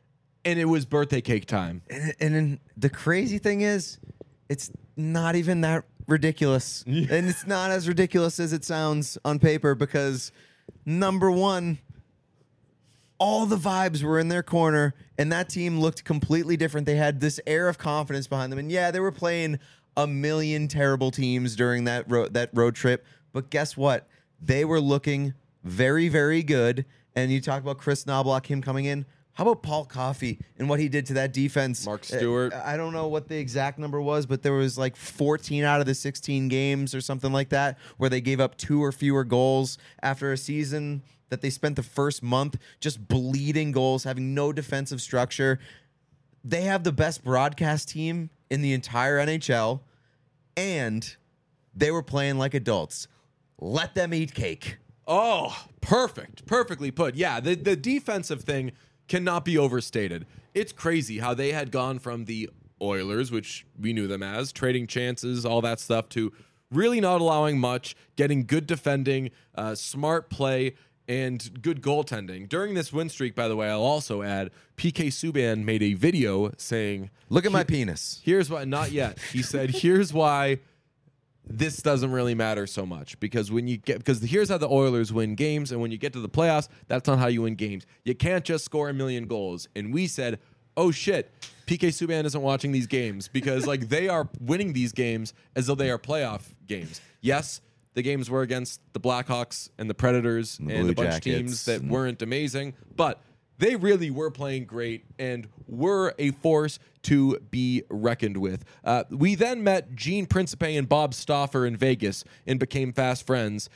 Speaker 1: and it was birthday cake time.
Speaker 2: And then the crazy thing is, it's not even that ridiculous. And it's not as ridiculous as it sounds on paper because, number one, all the vibes were in their corner, and that team looked completely different. They had this air of confidence behind them. And yeah, they were playing a million terrible teams during that road trip. But guess what? They were looking very, very good. And you talk about Chris Knobloch, him coming in. How about Paul Coffey and what he did to that defense?
Speaker 1: Mark Stewart.
Speaker 2: I don't know what the exact number was, but there was like 14 out of the 16 games or something like that where they gave up 2 or fewer goals after a season that they spent the first month just bleeding goals, having no defensive structure. They have the best broadcast team in the entire NHL, and they were playing like adults. Let them eat cake.
Speaker 1: Oh, perfect. Perfectly put. Yeah, the defensive thing cannot be overstated. It's crazy how they had gone from the Oilers, which we knew them as, trading chances, all that stuff, to really not allowing much, getting good defending, smart play, and good goaltending. During this win streak, by the way, I'll also add, PK Subban made a video saying,
Speaker 2: Look at my penis.
Speaker 1: here's why, not yet. He said, here's why this doesn't really matter so much because here's how the Oilers win games, and when you get to the playoffs, that's not how you win games. You can't just score a million goals. And we said, oh shit, PK Subban isn't watching these games because like they are winning these games as though they are playoff games. Yes, the games were against the Blackhawks and the Predators and
Speaker 2: Blue
Speaker 1: a bunch
Speaker 2: Jackets
Speaker 1: of teams that weren't amazing, but they really were playing great and were a force to be reckoned with. We then met Gene Principe and Bob Stauffer in Vegas and became fast friends.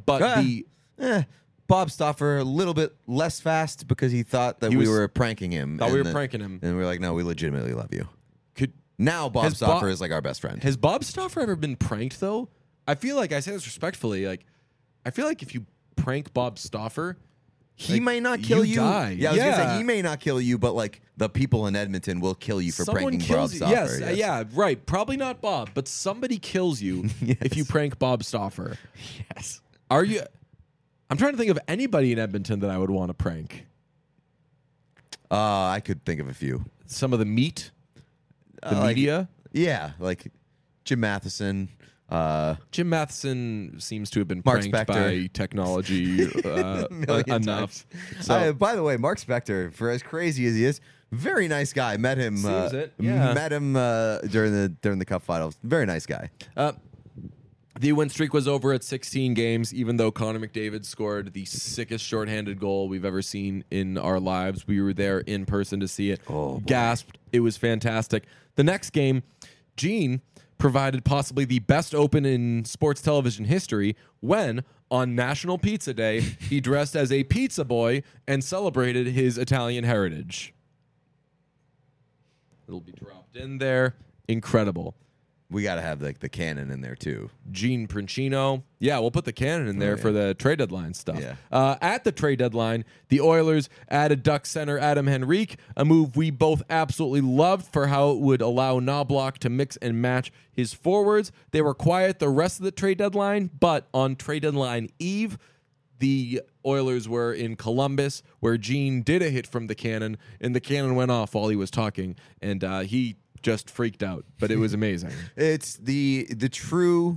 Speaker 2: Bob Stauffer a little bit less fast because he thought that we were pranking him.
Speaker 1: Thought we were pranking him.
Speaker 2: And we were like, no, we legitimately love you. Now Bob Stauffer is like our best friend.
Speaker 1: Has Bob Stauffer ever been pranked, though? I feel like, I say this respectfully, like, I feel like if you prank Bob Stauffer,
Speaker 2: he may not kill you.
Speaker 1: Die.
Speaker 2: Yeah, I was gonna say he may not kill you, but like the people in Edmonton will kill you for
Speaker 1: Someone
Speaker 2: pranking Bob
Speaker 1: kills you.
Speaker 2: Stauffer.
Speaker 1: Yes, yeah, right. Probably not Bob, but somebody kills you if you prank Bob Stauffer.
Speaker 2: Yes.
Speaker 1: Are you? I'm trying to think of anybody in Edmonton that I would want to prank.
Speaker 2: I could think of a few.
Speaker 1: Some of the meat, the
Speaker 2: Like,
Speaker 1: media.
Speaker 2: Yeah, like Jim Matheson.
Speaker 1: Jim Matheson seems to have been
Speaker 2: Mark
Speaker 1: pranked
Speaker 2: Spector.
Speaker 1: by technology
Speaker 2: Million
Speaker 1: enough.
Speaker 2: times.
Speaker 1: So,
Speaker 2: By the way, Mark Spector, for as crazy as he is, very nice guy. Met him.
Speaker 1: Seems it, yeah.
Speaker 2: Met him during the Cup finals. Very nice guy.
Speaker 1: the win streak was over at 16 games, even though Connor McDavid scored the sickest shorthanded goal we've ever seen in our lives. We were there in person to see it.
Speaker 2: Oh, boy.
Speaker 1: Gasped. It was fantastic. The next game, Gene provided possibly the best open in sports television history when, on National Pizza Day, he dressed as a pizza boy and celebrated his Italian heritage. It'll be dropped in there. Incredible.
Speaker 2: We got to have like the cannon in there too.
Speaker 1: Gene Princino. Yeah, we'll put the cannon in there for the trade deadline stuff.
Speaker 2: Yeah.
Speaker 1: At the trade deadline, the Oilers added Duck center Adam Henrique, a move we both absolutely loved for how it would allow Knobloch to mix and match his forwards. They were quiet the rest of the trade deadline, but on trade deadline eve, the Oilers were in Columbus, where Gene did a hit from the cannon, and the cannon went off while he was talking, and he just freaked out, but it was amazing.
Speaker 2: It's the true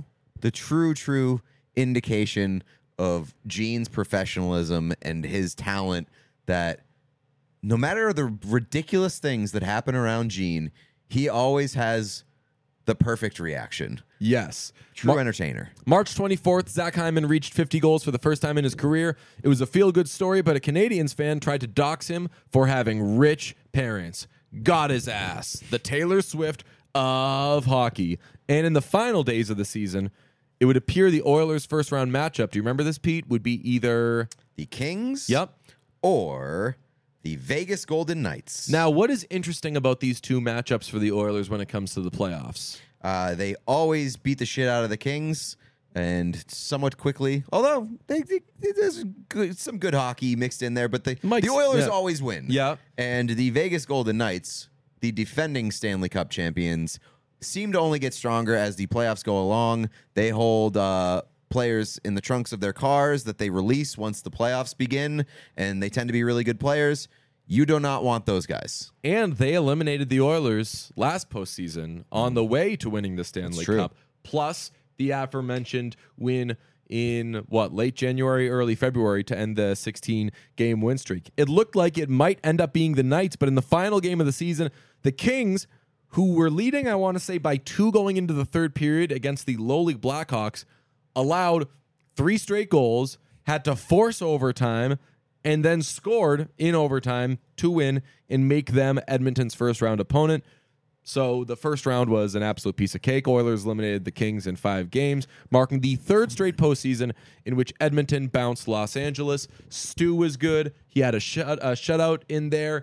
Speaker 2: indication of Gene's professionalism and his talent that no matter the ridiculous things that happen around Gene, he always has the perfect reaction.
Speaker 1: Yes.
Speaker 2: True entertainer.
Speaker 1: March 24th, Zach Hyman reached 50 goals for the first time in his career. It was a feel-good story, but a Canadiens fan tried to dox him for having rich parents. Got his ass. The Taylor Swift of hockey. And in the final days of the season, it would appear the Oilers' first-round matchup, do you remember this, Pete, would be either...
Speaker 2: The Kings?
Speaker 1: Yep.
Speaker 2: Or the Vegas Golden Knights.
Speaker 1: Now, what is interesting about these two matchups for the Oilers when it comes to the playoffs?
Speaker 2: They always beat the shit out of the Kings, and somewhat quickly. Although there's some good hockey mixed in there, but the Oilers always win.
Speaker 1: Yeah.
Speaker 2: And the Vegas Golden Knights, the defending Stanley Cup champions, seem to only get stronger as the playoffs go along. They hold players in the trunks of their cars that they release once the playoffs begin, and they tend to be really good players. You do not want those guys.
Speaker 1: And they eliminated the Oilers last postseason on the way to winning the Stanley
Speaker 2: true.
Speaker 1: Cup. Plus the aforementioned win in late January, early February to end the 16-game win streak. It looked like it might end up being the Knights, but in the final game of the season, the Kings, who were leading, I want to say, by 2 going into the third period against the lowly Blackhawks, allowed 3 straight goals, had to force overtime, and then scored in overtime to win and make them Edmonton's first-round opponent. So the first round was an absolute piece of cake. Oilers eliminated the Kings in 5 games, marking the 3rd straight postseason in which Edmonton bounced Los Angeles. Stu was good. He had a shutout in there.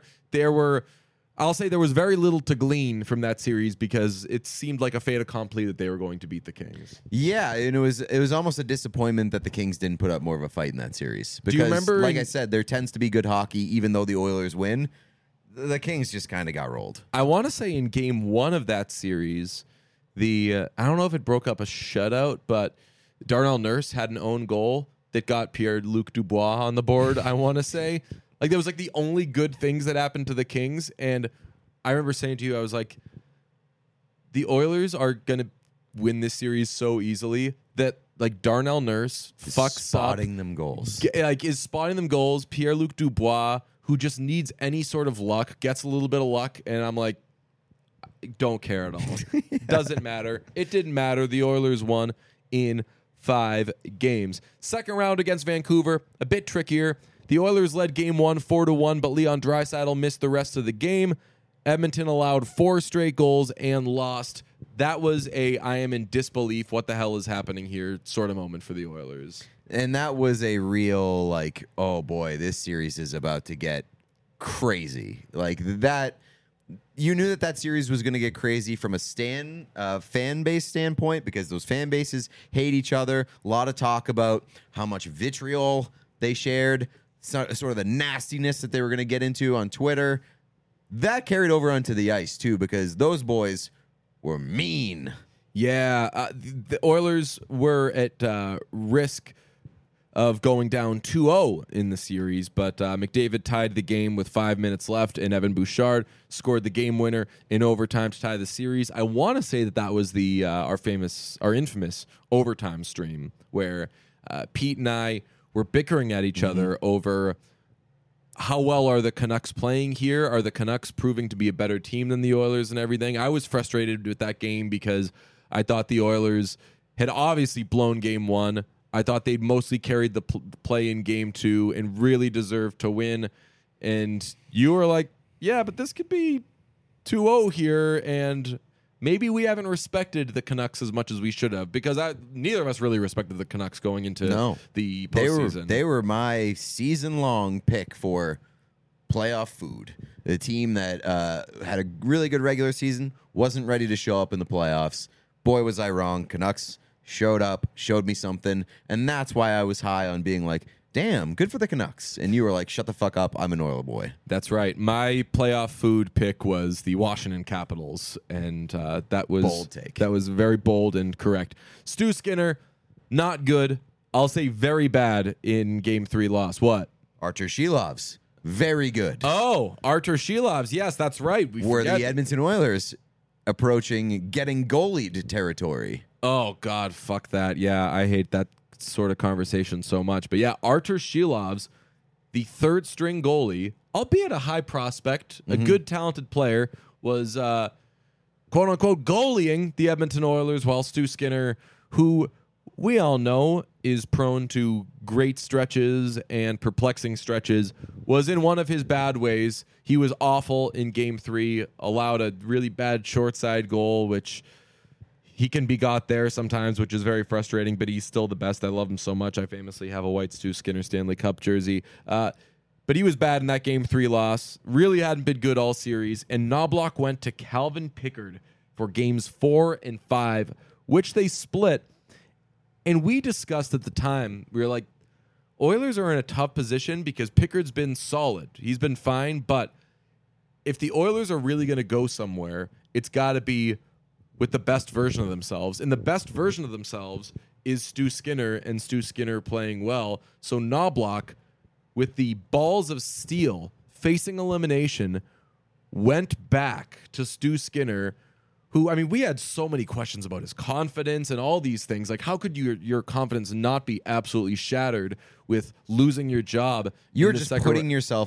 Speaker 1: I'll say there was very little to glean from that series because it seemed like a fait accompli that they were going to beat the Kings.
Speaker 2: Yeah, and it was almost a disappointment that the Kings didn't put up more of a fight in that series. Because,
Speaker 1: you remember
Speaker 2: like I said, there tends to be good hockey, even though the Oilers win. The Kings just kind of got rolled.
Speaker 1: I want to say in game 1 of that series, I don't know if it broke up a shutout, but Darnell Nurse had an own goal that got Pierre-Luc Dubois on the board, I want to say. Like, that was like the only good things that happened to the Kings. And I remember saying to you, I was like, the Oilers are going to win this series so easily that, like, Darnell Nurse fucks
Speaker 2: spotting
Speaker 1: up,
Speaker 2: them goals.
Speaker 1: is spotting them goals. Pierre-Luc Dubois, who just needs any sort of luck, gets a little bit of luck. And I'm like, don't care at all. Doesn't matter. It didn't matter. The Oilers won in 5 games. Second round against Vancouver, a bit trickier. The Oilers led game 1 4-1, but Leon Draisaitl missed the rest of the game. Edmonton allowed 4 straight goals and lost. That was I am in disbelief, what the hell is happening here sort of moment for the Oilers.
Speaker 2: And that was a real, like, oh boy, this series is about to get crazy. Like that, you knew that series was going to get crazy from a fan base standpoint because those fan bases hate each other. A lot of talk about how much vitriol they shared, sort of the nastiness that they were going to get into on Twitter. That carried over onto the ice, too, because those boys were mean.
Speaker 1: Yeah, the Oilers were at risk of going down 2-0 in the series, but McDavid tied the game with 5 minutes left, and Evan Bouchard scored the game winner in overtime to tie the series. I want to say that was our infamous overtime stream where Pete and I were bickering at each other over how well are the Canucks playing here? Are the Canucks proving to be a better team than the Oilers and everything? I was frustrated with that game because I thought the Oilers had obviously blown game 1. I thought they'd mostly carried the play in game 2 and really deserved to win. And you were like, yeah, but this could be 2-0 here, and maybe we haven't respected the Canucks as much as we should have, because neither of us really respected the Canucks going into the postseason.
Speaker 2: They were my season-long pick for playoff food. The team that had a really good regular season, wasn't ready to show up in the playoffs. Boy, was I wrong. Canucks showed up, showed me something, and that's why I was high on being like, damn, good for the Canucks. And you were like, shut the fuck up, I'm an Oiler boy.
Speaker 1: That's right. My playoff food pick was the Washington Capitals, and that was
Speaker 2: bold take.
Speaker 1: That was very bold and correct. Stu Skinner, not good. I'll say very bad in Game 3 loss. What?
Speaker 2: Artur Shilovs, very good.
Speaker 1: Oh, Artur Shilovs. Yes, that's right.
Speaker 2: Were the Edmonton Oilers approaching getting goalied territory?
Speaker 1: Oh, God, fuck that. Yeah, I hate that sort of conversation so much. But yeah, Artur Shilovs, the 3rd string goalie, albeit a high prospect, a good talented player, was quote unquote goalieing the Edmonton Oilers, while Stu Skinner, who we all know is prone to great stretches and perplexing stretches, was in one of his bad ways. He was awful in Game 3, allowed a really bad short side goal, which he can be got there sometimes, which is very frustrating, but he's still the best. I love him so much. I famously have a white Stu Skinner Stanley Cup jersey. But he was bad in that Game 3 loss. Really hadn't been good all series. And Knobloch went to Calvin Pickard for Games 4 and 5, which they split. And we discussed at the time, we were like, Oilers are in a tough position because Pickard's been solid. He's been fine, but if the Oilers are really going to go somewhere, it's got to be with the best version of themselves. And the best version of themselves is Stu Skinner, and Stu Skinner playing well. So Knobloch, with the balls of steel, facing elimination, went back to Stu Skinner, who, I mean, we had so many questions about his confidence and all these things. Like, how could your confidence not be absolutely shattered with losing your job?
Speaker 2: You're just putting yourself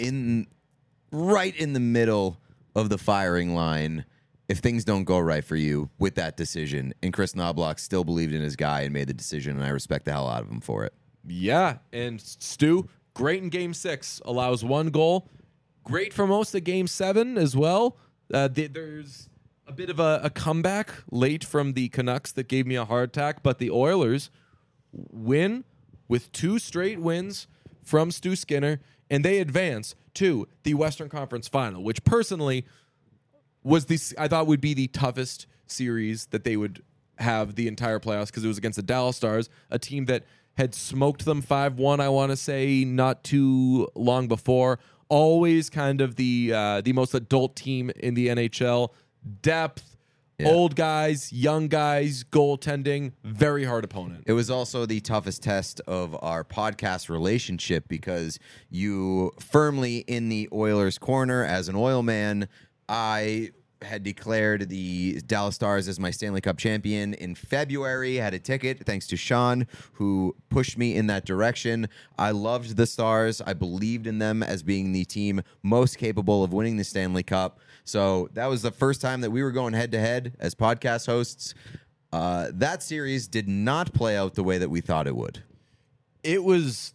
Speaker 2: right in the middle of the firing line if things don't go right for you with that decision. And Chris Knobloch still believed in his guy and made the decision, and I respect the hell out of him for it.
Speaker 1: Yeah, and Stu, great in Game 6, allows 1 goal. Great for most of Game 7 as well. There's a bit of a comeback late from the Canucks that gave me a heart attack, but the Oilers win with 2 straight wins from Stu Skinner, and they advance to the Western Conference Final, which personally was I thought would be the toughest series that they would have the entire playoffs, because it was against the Dallas Stars, a team that had smoked them 5-1, I want to say, not too long before. Always kind of the most adult team in the NHL. Depth, old guys, young guys, goaltending, very hard opponent.
Speaker 2: It was also the toughest test of our podcast relationship, because you firmly in the Oilers' corner as an Oil man. I had declared the Dallas Stars as my Stanley Cup champion in February. Had a ticket thanks to Sean, who pushed me in that direction. I loved the Stars. I believed in them as being the team most capable of winning the Stanley Cup. So that was the first time that we were going head-to-head as podcast hosts. That series did not play out the way that we thought it would.
Speaker 1: It was...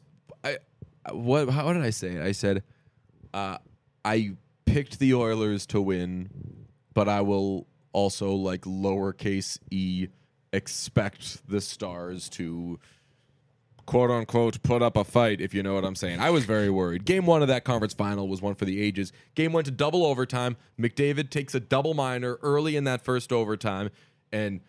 Speaker 1: How did I say it? I said, I picked the Oilers to win, but I will also, like, lowercase e, expect the Stars to, quote-unquote, put up a fight, if you know what I'm saying. I was very worried. Game 1 of that conference final was one for the ages. Game went to double overtime. McDavid takes a double minor early in that first overtime, and,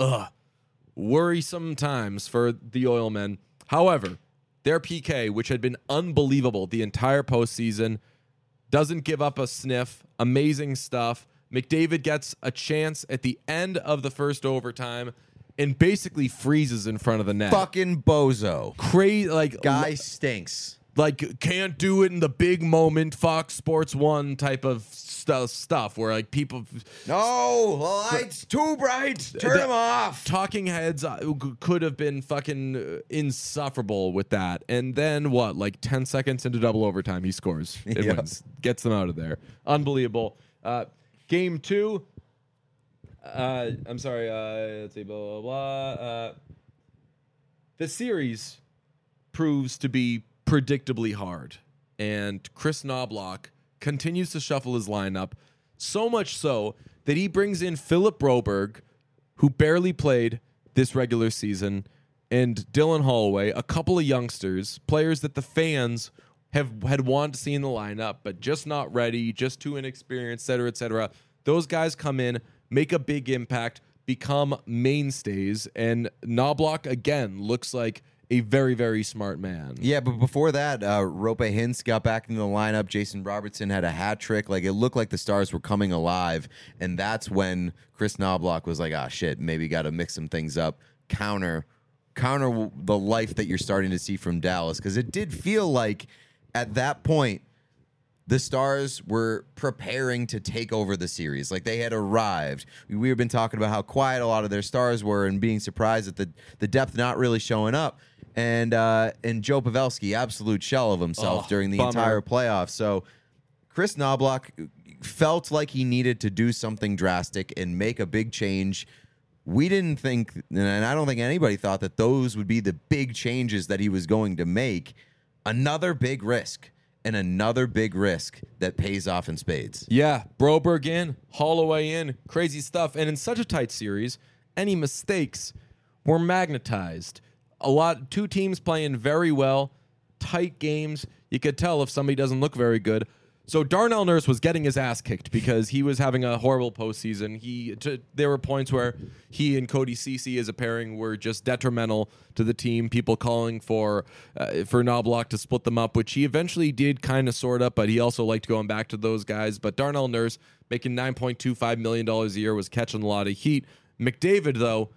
Speaker 1: worrisome times for the Oilmen. However, their PK, which had been unbelievable the entire postseason, doesn't give up a sniff. Amazing stuff. McDavid gets a chance at the end of the first overtime and basically freezes in front of the net.
Speaker 2: Fucking bozo.
Speaker 1: Crazy, like,
Speaker 2: guy stinks.
Speaker 1: Like, can't do it in the big moment, Fox Sports 1 type of stuff where, like, people...
Speaker 2: No, the light's too bright. Turn them off.
Speaker 1: Talking heads could have been fucking insufferable with that. And then, what, like 10 seconds into double overtime, he scores. It wins. Gets them out of there. Unbelievable. Game 2... I'm sorry. Let's see. Blah, blah, blah. The series proves to be predictably hard, and Chris Knobloch continues to shuffle his lineup, so much so that he brings in Philip Broberg, who barely played this regular season, and Dylan Holloway, a couple of youngsters, players that the fans had wanted to see in the lineup, but just not ready, just too inexperienced, et cetera, et cetera. Those guys come in, make a big impact, become mainstays, and Knobloch, again, looks like a very, very smart man.
Speaker 2: Yeah, but before that, Rope Hintz got back into the lineup. Jason Robertson had a hat trick. Like, it looked like the Stars were coming alive, and that's when Chris Knobloch was like, shit, maybe got to mix some things up, counter the life that you're starting to see from Dallas, because it did feel like at that point, the Stars were preparing to take over the series. Like, they had arrived. We have been talking about how quiet a lot of their stars were and being surprised at the depth not really showing up. And Joe Pavelski, absolute shell of himself during the entire playoffs. So Chris Knobloch felt like he needed to do something drastic and make a big change. We didn't think, and I don't think anybody thought, that those would be the big changes that he was going to make. Another big risk. And another big risk that pays off in spades.
Speaker 1: Yeah, Broberg in, Holloway in, crazy stuff. And in such a tight series, any mistakes were magnetized. Two teams playing very well, tight games. You could tell if somebody doesn't look very good. So Darnell Nurse was getting his ass kicked because he was having a horrible postseason. There were points where he and Cody Ceci as a pairing were just detrimental to the team. People calling for Knobloch to split them up, which he eventually did kind of sort of, but he also liked going back to those guys. But Darnell Nurse, making $9.25 million a year, was catching a lot of heat. McDavid, though,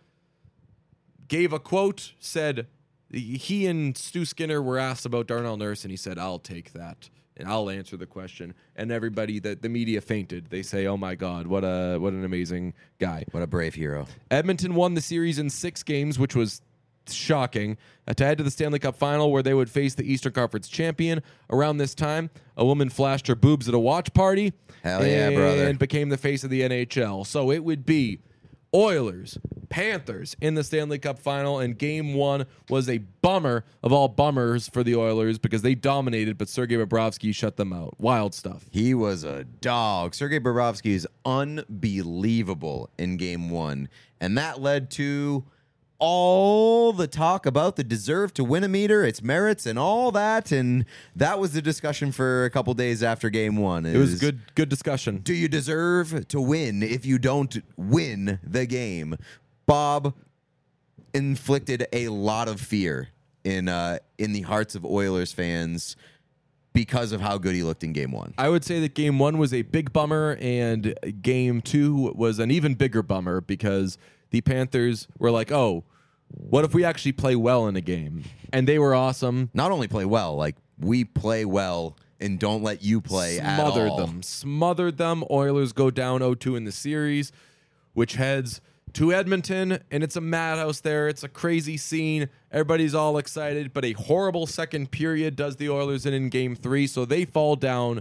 Speaker 1: gave a quote, said he and Stu Skinner were asked about Darnell Nurse, and he said, "I'll take that." And I'll answer the question. And everybody, the media fainted. They say, "Oh my God, what an amazing guy."
Speaker 2: What a brave hero.
Speaker 1: Edmonton won the series in 6 games, which was shocking, to head to the Stanley Cup final where they would face the Eastern Conference champion. Around this time, a woman flashed her boobs at a watch party.
Speaker 2: Hell yeah, brother.
Speaker 1: And became the face of the NHL. So it would be Oilers, Panthers in the Stanley Cup final, and Game 1 was a bummer of all bummers for the Oilers because they dominated, but Sergei Bobrovsky shut them out. Wild stuff.
Speaker 2: He was a dog. Sergei Bobrovsky is unbelievable in Game 1, and that led to all the talk about the deserve to win a meter, its merits, and all that, and that was the discussion for a couple days after Game 1.
Speaker 1: It was good discussion.
Speaker 2: Do you deserve to win if you don't win the game? Bob inflicted a lot of fear in the hearts of Oilers fans because of how good he looked in Game 1.
Speaker 1: I would say that Game 1 was a big bummer, and Game 2 was an even bigger bummer because the Panthers were like, oh, what if we actually play well in a game? And they were awesome.
Speaker 2: Not only play well, like we play well and don't let you play at all.
Speaker 1: Smothered them. Oilers go down 0-2 in the series, which heads to Edmonton, and it's a madhouse there. It's a crazy scene. Everybody's all excited, but a horrible second period does the Oilers in Game 3, so they fall down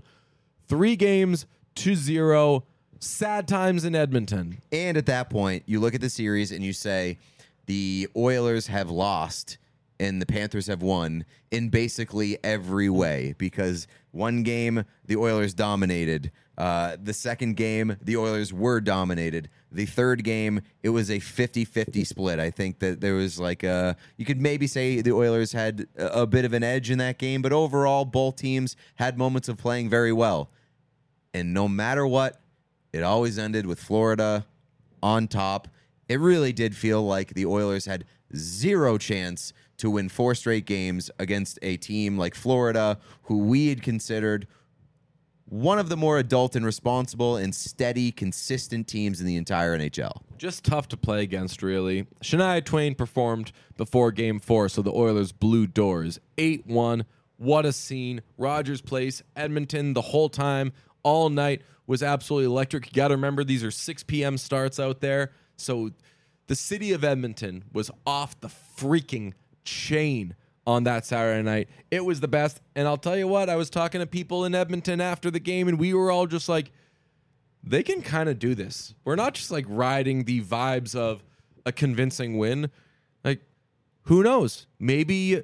Speaker 1: 3-0. Sad times in Edmonton.
Speaker 2: And at that point, you look at the series and you say, the Oilers have lost and the Panthers have won in basically every way because one game, the Oilers dominated. The second game, the Oilers were dominated. The third game, it was a 50-50 split. I think that there was you could maybe say the Oilers had a bit of an edge in that game, but overall, both teams had moments of playing very well. And no matter what, it always ended with Florida on top. It really did feel like the Oilers had zero chance to win 4 straight games against a team like Florida, who we had considered one of the more adult and responsible and steady, consistent teams in the entire NHL.
Speaker 1: Just tough to play against, really. Shania Twain performed before Game 4, so the Oilers blew doors. 8-1. What a scene. Rogers Place, Edmonton, the whole time, all night, was absolutely electric. You got to remember, these are 6 p.m. starts out there. So the city of Edmonton was off the freaking chain on that Saturday night. It was the best. And I'll tell you what, I was talking to people in Edmonton after the game, and we were all just like, they can kind of do this. We're not just like riding the vibes of a convincing win. Like, who knows? Maybe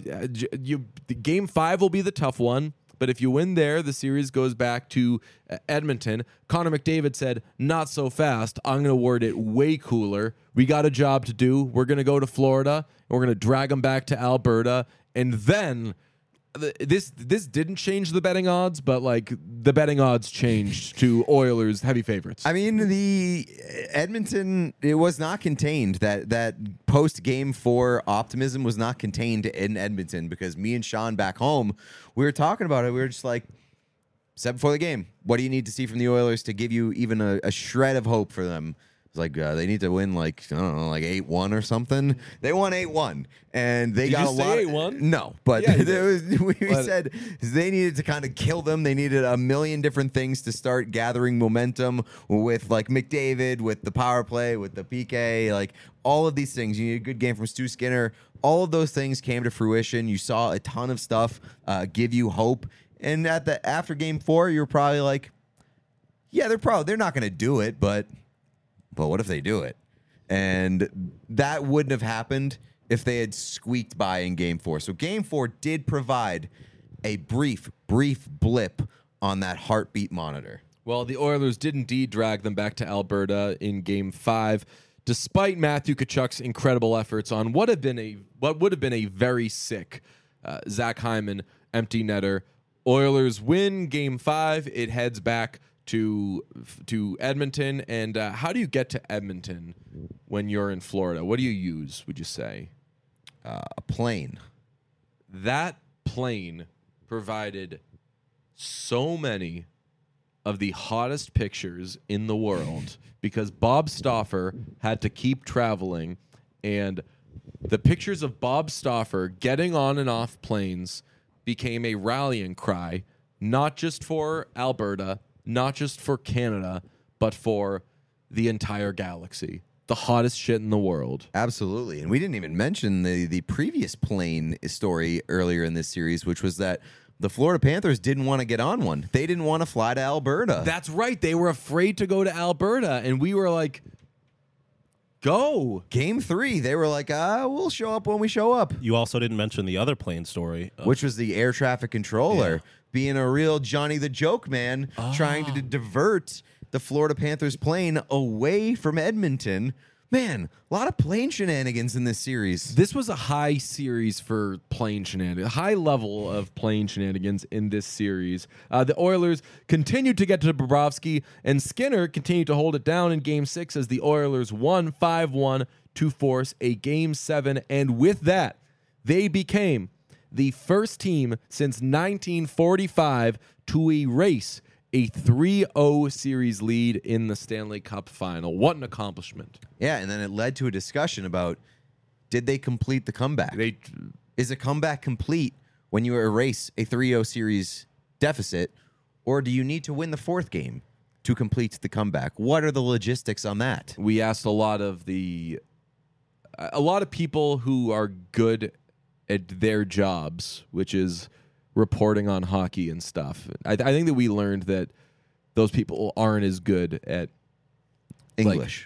Speaker 1: Game 5 will be the tough one. But if you win there, the series goes back to Edmonton. Connor McDavid said, not so fast. I'm going to word it way cooler. We got a job to do. We're going to go to Florida, and we're going to drag them back to Alberta. And then this didn't change the betting odds, but like the betting odds changed to Oilers heavy favorites.
Speaker 2: I mean, the Edmonton, it was not contained. That post Game 4 optimism was not contained in Edmonton because me and Sean back home, we were talking about it. We were just like, said before the game, what do you need to see from the Oilers to give you even a shred of hope for them? It's like they need to win like, I don't know, like 8-1 or something. They won 8-1 and they got a lot.
Speaker 1: 8-1?
Speaker 2: No, but
Speaker 1: Yeah,
Speaker 2: we said they needed to kind of kill them. They needed a million different things to start gathering momentum with like McDavid, with the power play, with the PK, like all of these things. You need a good game from Stu Skinner. All of those things came to fruition. You saw a ton of stuff give you hope. And after Game 4, you're probably like, yeah, they're not going to do it, but what if they do it? And that wouldn't have happened if they had squeaked by in Game 4. So Game 4 did provide a brief blip on that heartbeat monitor.
Speaker 1: Well, the Oilers did indeed drag them back to Alberta in Game 5, despite Matthew Tkachuk's incredible efforts on what would have been a very sick Zach Hyman empty netter. Oilers win Game 5. It heads back to Edmonton. And how do you get to Edmonton when you're in Florida? What do you use, would you say?
Speaker 2: A plane.
Speaker 1: That plane provided so many of the hottest pictures in the world because Bob Stauffer had to keep traveling, and the pictures of Bob Stauffer getting on and off planes became a rallying cry not just for Alberta, not just for Canada, but for the entire galaxy. The hottest shit in the world.
Speaker 2: Absolutely. And we didn't even mention the previous plane story earlier in this series, which was that the Florida Panthers didn't want to get on one. They didn't want to fly to Alberta.
Speaker 1: That's right. They were afraid to go to Alberta, and we were like, go.
Speaker 2: Game 3, they were like, we'll show up when we show up.
Speaker 3: You also didn't mention the other plane story.
Speaker 2: Which was the air traffic controller being a real Johnny the Joke man, trying to divert the Florida Panthers plane away from Edmonton. Man, a lot of plane shenanigans in this series.
Speaker 1: This was a high series for plane shenanigans, high level of plane shenanigans in this series. The Oilers continued to get to Bobrovsky, and Skinner continued to hold it down in Game 6 as the Oilers won 5-1 to force a Game 7. And with that, they became the first team since 1945 to erase a 3-0 series lead in the Stanley Cup final. What an accomplishment.
Speaker 2: Yeah, and then it led to a discussion about, did they complete the comeback? Is a comeback complete when you erase a 3-0 series deficit, or do you need to win the fourth game to complete the comeback? What are the logistics on that?
Speaker 1: We asked a lot of people who are good at their jobs, which is reporting on hockey and stuff. I think that we learned that those people aren't as good at
Speaker 2: English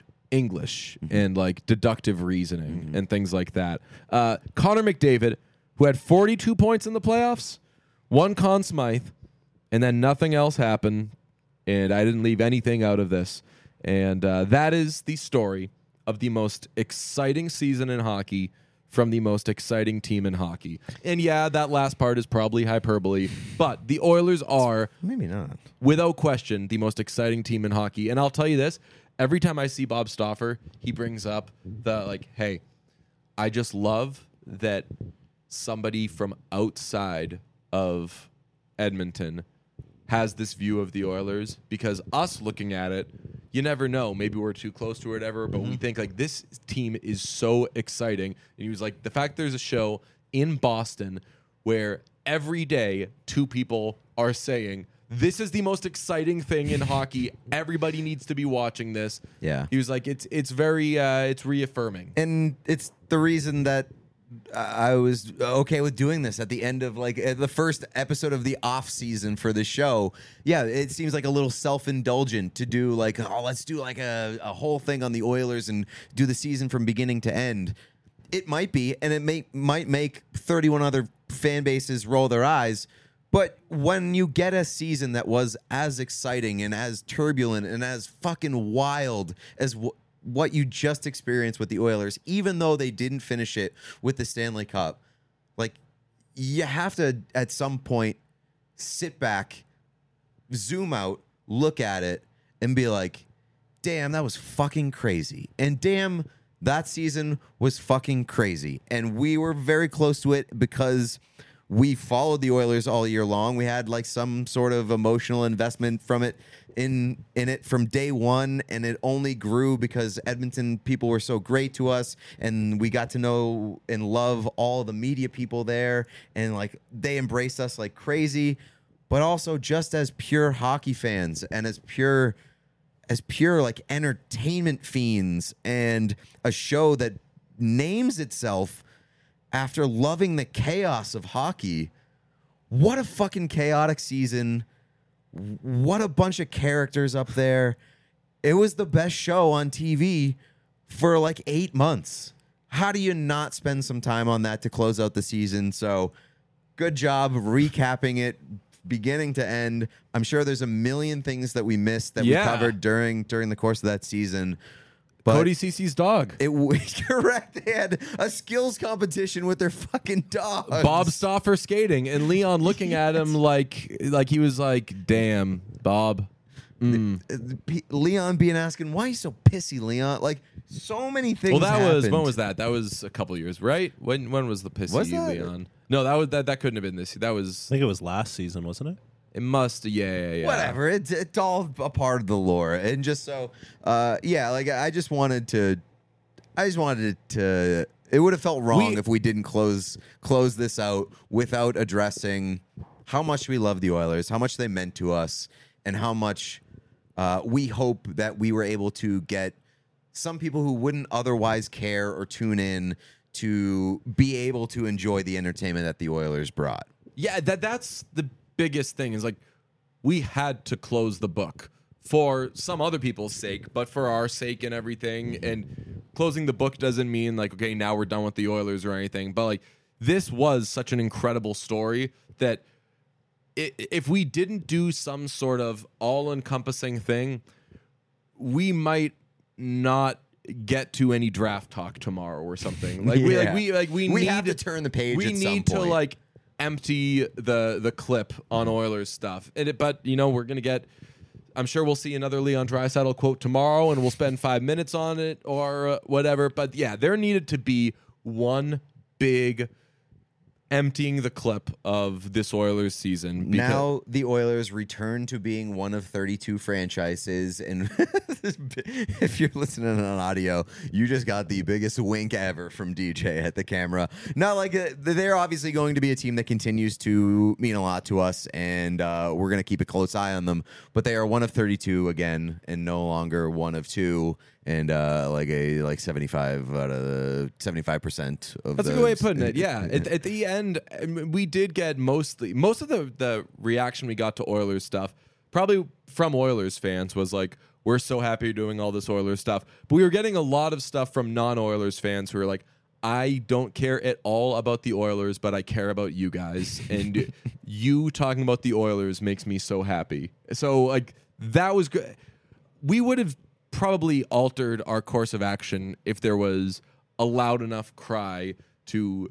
Speaker 1: and like deductive reasoning and things like that. Connor McDavid, who had 42 points in the playoffs, one Conn Smythe, and then nothing else happened, and I didn't leave anything out of this. And that is the story of the most exciting season in hockey from the most exciting team in hockey. And yeah, that last part is probably hyperbole, but the Oilers are,
Speaker 2: Maybe not,
Speaker 1: without question, the most exciting team in hockey. And I'll tell you this, every time I see Bob Stauffer, he brings up the, like, hey, I just love that somebody from outside of Edmonton has this view of the Oilers, because us looking at it, you never know. Maybe we're too close to it ever, but we think like this team is so exciting. And he was like, the fact there's a show in Boston where every day two people are saying, this is the most exciting thing in hockey. Everybody needs to be watching this.
Speaker 2: Yeah.
Speaker 1: He was like, it's very, it's reaffirming.
Speaker 2: and it's the reason that I was okay with doing this at the end of like the first episode of the off season for the show. Yeah, it seems like a little self-indulgent to do like, let's do like a whole thing on the Oilers and do the season from beginning to end. It might be, and it might make 31 other fan bases roll their eyes. But when you get a season that was as exciting and as turbulent and as fucking wild as what you just experienced with the Oilers, even though they didn't finish it with the Stanley Cup, like, you have to at some point sit back, zoom out, look at it, and be like, damn, that was fucking crazy. And damn, that season was fucking crazy. And we were very close to it because we followed the Oilers all year long. We had like some sort of emotional investment from it in it from day one, and it only grew because Edmonton people were so great to us, and we got to know and love all the media people there, and like they embraced us like crazy. But also just as pure hockey fans and as pure like entertainment fiends, and a show that names itself after loving the chaos of hockey. What a fucking chaotic season. What a bunch of characters up there. It was the best show on TV for like 8 months. How do you not spend some time on that to close out the season? So good job recapping it beginning to end. I'm sure there's a million things that we missed that we covered during the course of that season. But
Speaker 1: Cody Cece's dog.
Speaker 2: It was correct. They had a skills competition with their fucking dogs.
Speaker 1: Bob Stauffer skating, and Leon looking at him like he was like, damn, Bob.
Speaker 2: Leon being asking, why are you so pissy, Leon? Like, so many things happened.
Speaker 1: When was that? That was a couple years, right? When was the pissy
Speaker 2: Was that?
Speaker 1: Leon? No, that couldn't have been this. That was.
Speaker 3: I think it was last season, wasn't it?
Speaker 1: It must. Yeah.
Speaker 2: Whatever. It's all a part of the lore, and just so, like I just wanted to. It would have felt wrong if we didn't close this out without addressing how much we love the Oilers, how much they meant to us, and how much we hope that we were able to get some people who wouldn't otherwise care or tune in to be able to enjoy the entertainment that the Oilers brought.
Speaker 1: Yeah, that's the biggest thing is like we had to close the book for some other people's sake, but for our sake and everything. And closing the book doesn't mean like, okay, now we're done with the Oilers or anything. But like this was such an incredible story that if we didn't do some sort of all-encompassing thing, we might not get to any draft talk tomorrow or something. Like we need
Speaker 2: have to turn the page.
Speaker 1: We
Speaker 2: at some
Speaker 1: need to
Speaker 2: point.
Speaker 1: like empty the clip on Oilers stuff. But you know, we're gonna get. I'm sure we'll see another Leon Draisaitl quote tomorrow, and we'll spend 5 minutes on it or whatever. But yeah, there needed to be one big emptying the clip of this Oilers season.
Speaker 2: Now the Oilers return to being one of 32 franchises, and if you're listening on audio, you just got the biggest wink ever from DJ at the camera. Not like they're obviously going to be a team that continues to mean a lot to us, and we're going to keep a close eye on them. But they are one of 32 again, and no longer one of two. And like 75 out of 75% of
Speaker 1: that's a good way of putting it. Yeah, at the end, we did get most of the reaction we got to Oilers stuff, probably from Oilers fans, was like, "We're so happy you're doing all this Oilers stuff." But we were getting a lot of stuff from non-Oilers fans who were like, "I don't care at all about the Oilers, but I care about you guys, and you talking about the Oilers makes me so happy." So like that was good. We would have probably altered our course of action if there was a loud enough cry to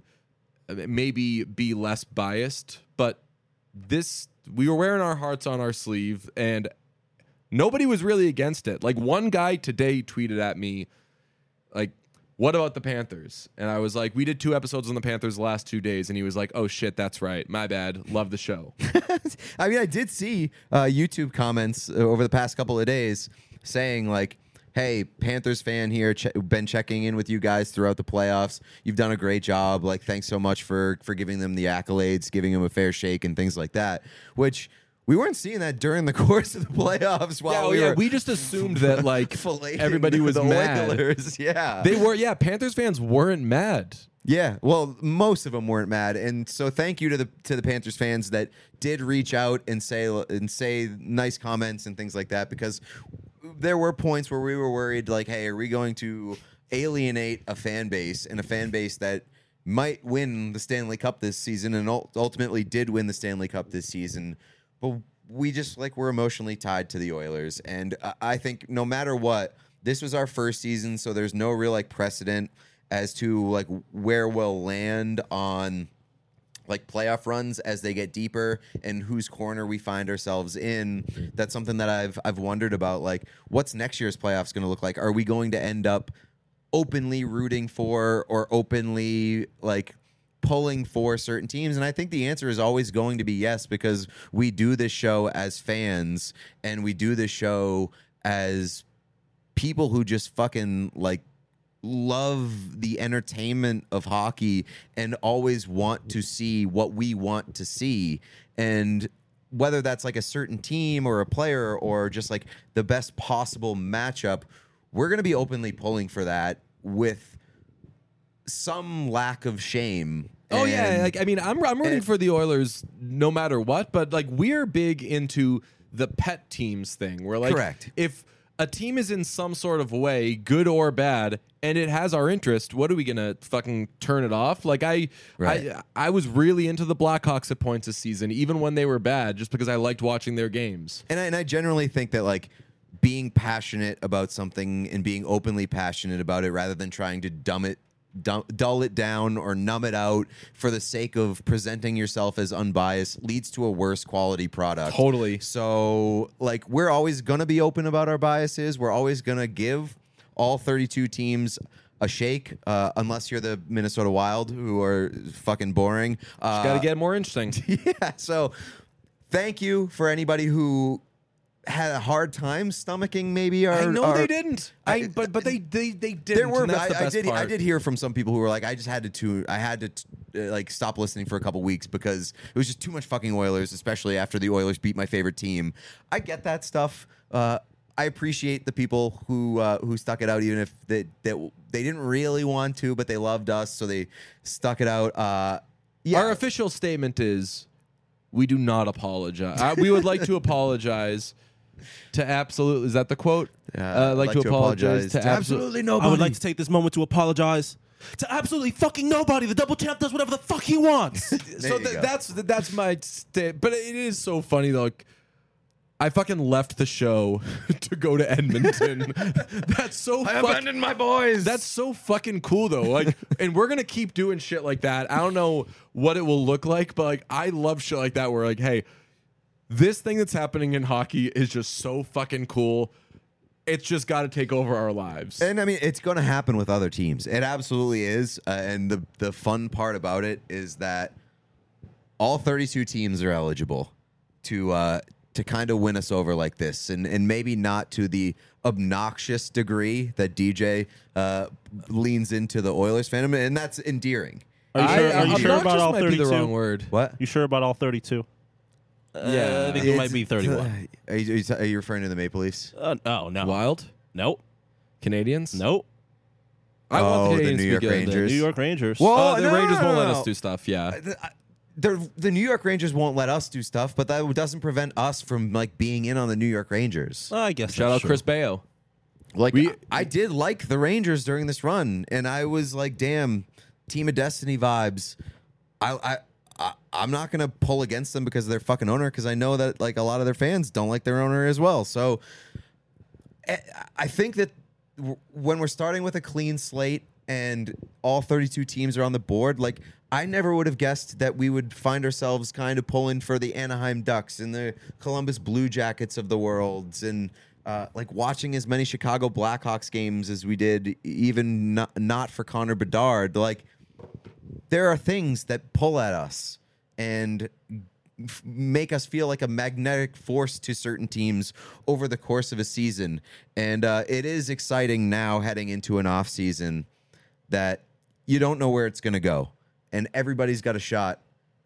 Speaker 1: maybe be less biased. But this, we were wearing our hearts on our sleeve, and nobody was really against it. Like one guy today tweeted at me, like, "What about the Panthers?" And I was like, "We did 2 episodes on the Panthers the last 2 days." And he was like, "Oh shit, that's right. My bad. Love the show."
Speaker 2: I mean, I did see YouTube comments over the past couple of days saying like, "Hey, Panthers fan here, been checking in with you guys throughout the playoffs. You've done a great job. Like, thanks so much for giving them the accolades, giving them a fair shake, and things like that." Which we weren't seeing that during the course of the playoffs. While
Speaker 1: we just assumed that like
Speaker 2: filleting
Speaker 1: everybody was
Speaker 2: the
Speaker 1: mad.
Speaker 2: Oilers. Yeah,
Speaker 1: They were. Yeah, Panthers fans weren't mad.
Speaker 2: yeah, well, most of them weren't mad, and so thank you to the Panthers fans that did reach out and say nice comments and things like that, because there were points where we were worried, like, hey, are we going to alienate a fan base, and a fan base that might win the Stanley Cup this season and ultimately did win the Stanley Cup this season, but we just like we're emotionally tied to the Oilers, and I think no matter what, this was our first season, so there's no real like precedent as to like where we'll land on like playoff runs as they get deeper and whose corner we find ourselves in. That's something that I've wondered about. Like, what's next year's playoffs going to look like? Are we going to end up openly rooting for or openly like pulling for certain teams? And I think the answer is always going to be yes, because we do this show as fans and we do this show as people who just fucking like love the entertainment of hockey and always want to see what we want to see. And whether that's like a certain team or a player or just like the best possible matchup, we're going to be openly pulling for that with some lack of shame.
Speaker 1: Oh yeah, like I mean, I'm rooting for the Oilers no matter what, but like we're big into the pet teams thing. We're like,
Speaker 2: correct.
Speaker 1: If a team is in some sort of way, good or bad, and it has our interest, what are we gonna fucking turn it off? Like I was really into the Blackhawks at points this season, even when they were bad, just because I liked watching their games.
Speaker 2: And I generally think that like being passionate about something and being openly passionate about it, rather than trying to dull it down or numb it out for the sake of presenting yourself as unbiased, leads to a worse quality product.
Speaker 1: Totally.
Speaker 2: So like we're always going to be open about our biases. We're always going to give all 32 teams a shake, unless you're the Minnesota Wild, who are fucking boring.
Speaker 1: Got to get more interesting.
Speaker 2: Yeah. So thank you for anybody who had a hard time stomaching maybe our.
Speaker 1: I know
Speaker 2: our,
Speaker 1: they didn't. But they didn't.
Speaker 2: There were.
Speaker 1: and that's the best
Speaker 2: I
Speaker 1: part.
Speaker 2: did hear from some people who were like, I just had to like stop listening for a couple weeks because it was just too much fucking Oilers, especially after the Oilers beat my favorite team. I get that stuff. I appreciate the people who stuck it out, even if they didn't really want to, but they loved us, so they stuck it out. Yeah.
Speaker 1: Our official statement is, we do not apologize. We would like to apologize to absolutely. Is that the quote? Like to apologize to absolutely nobody.
Speaker 3: I would like to take this moment to apologize to absolutely fucking nobody. The double champ does whatever the fuck he wants.
Speaker 1: So that's my but it is so funny though. Like, I fucking left the show to go to Edmonton. That's so.
Speaker 2: I abandoned my boys.
Speaker 1: That's so fucking cool though. Like, and we're gonna keep doing shit like that. I don't know what it will look like, but like, I love shit like that. Where like, hey, this thing that's happening in hockey is just so fucking cool. It's just got to take over our lives.
Speaker 2: And I mean, it's going to happen with other teams. It absolutely is. And the fun part about it is that all 32 teams are eligible to kind of win us over like this, and maybe not to the obnoxious degree that DJ leans into the Oilers fandom, and that's endearing.
Speaker 3: Are you sure about all
Speaker 1: might be
Speaker 3: 32?
Speaker 1: the wrong word.
Speaker 2: What?
Speaker 3: You sure about all 32?
Speaker 1: Yeah,
Speaker 3: I think it might be 31.
Speaker 2: Are you referring to the Maple Leafs?
Speaker 3: No.
Speaker 1: Wild
Speaker 3: Nope.
Speaker 1: Canadians.
Speaker 3: Nope.
Speaker 1: I want
Speaker 2: the
Speaker 1: the Canadians
Speaker 2: New
Speaker 1: to
Speaker 2: York
Speaker 1: be good.
Speaker 2: Rangers.
Speaker 3: New York Rangers.
Speaker 2: Well,
Speaker 1: The
Speaker 2: no,
Speaker 1: Rangers won't let
Speaker 2: no.
Speaker 1: us do stuff. Yeah.
Speaker 2: The New York Rangers won't let us do stuff, but that doesn't prevent us from like being in on the New York Rangers.
Speaker 3: I guess
Speaker 1: Shout
Speaker 3: that's
Speaker 1: out
Speaker 3: true.
Speaker 1: Chris Bayo.
Speaker 2: Like I did like the Rangers during this run, and I was like, "Damn, Team of Destiny vibes." I'm not gonna pull against them because of their fucking owner, because I know that like a lot of their fans don't like their owner as well. So I think that when we're starting with a clean slate and all 32 teams are on the board, like I never would have guessed that we would find ourselves kind of pulling for the Anaheim Ducks and the Columbus Blue Jackets of the world, and like watching as many Chicago Blackhawks games as we did, even not for Connor Bedard. Like, there are things that pull at us and make us feel like a magnetic force to certain teams over the course of a season. And it is exciting now heading into an off season that you don't know where it's going to go. And everybody's got a shot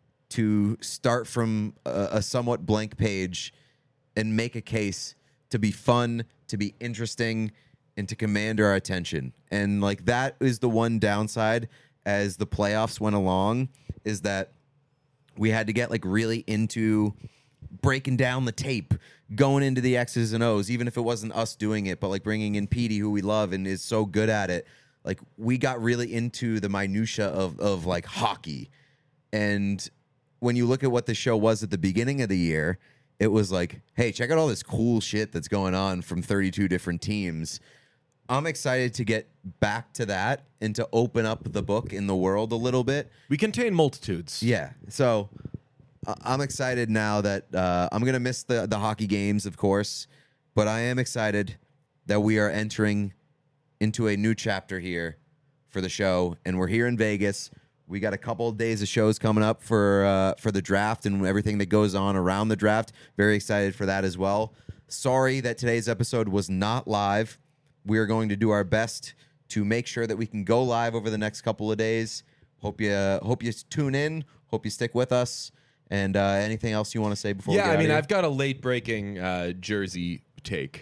Speaker 2: to start from a somewhat blank page and make a case to be fun, to be interesting, and to command our attention. And like that is the one downside as the playoffs went along, is that we had to get like really into breaking down the tape, going into the X's and O's, even if it wasn't us doing it, but like bringing in Petey, who we love and is so good at it. Like, we got really into the minutia of like hockey. And when you look at what the show was at the beginning of the year, it was like, hey, check out all this cool shit that's going on from 32 different teams. I'm excited to get back to that and to open up the book in the world a little bit.
Speaker 1: We contain multitudes.
Speaker 2: Yeah. So I'm excited now that I'm going to miss the hockey games, of course, but I am excited that we are entering into a new chapter here for the show, and we're here in Vegas. We got a couple of days of shows coming up for the draft and everything that goes on around the draft. Very excited for that as well. Sorry that today's episode was not live. We are going to do our best to make sure that we can go live over the next couple of days. Hope you tune in. Hope you stick with us. And anything else you want to say before we get out of here?
Speaker 1: I've got a late breaking jersey take.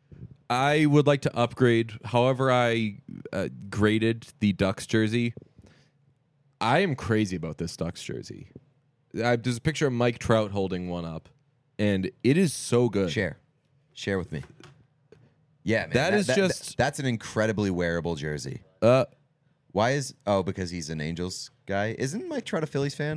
Speaker 1: I would like to upgrade. However, I graded the Ducks jersey. I am crazy about this Ducks jersey. There's a picture of Mike Trout holding one up, and it is so good.
Speaker 2: Share with me. Yeah, man, that's an incredibly wearable jersey. Why is because he's an Angels guy? Isn't Mike Trout a Phillies fan?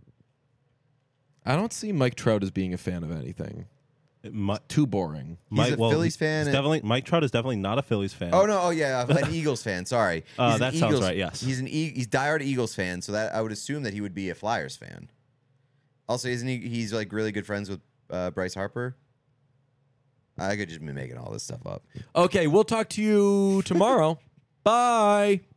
Speaker 1: I don't see Mike Trout as being a fan of anything. Too boring.
Speaker 2: He's a Phillies fan.
Speaker 3: Mike Trout is definitely not a Phillies fan.
Speaker 2: An Eagles fan. Sorry,
Speaker 3: that sounds right. Yes,
Speaker 2: he's diehard Eagles fan. So that I would assume that he would be a Flyers fan. Also, isn't he? He's like really good friends with Bryce Harper. I could just be making all this stuff up.
Speaker 1: Okay, we'll talk to you tomorrow. Bye.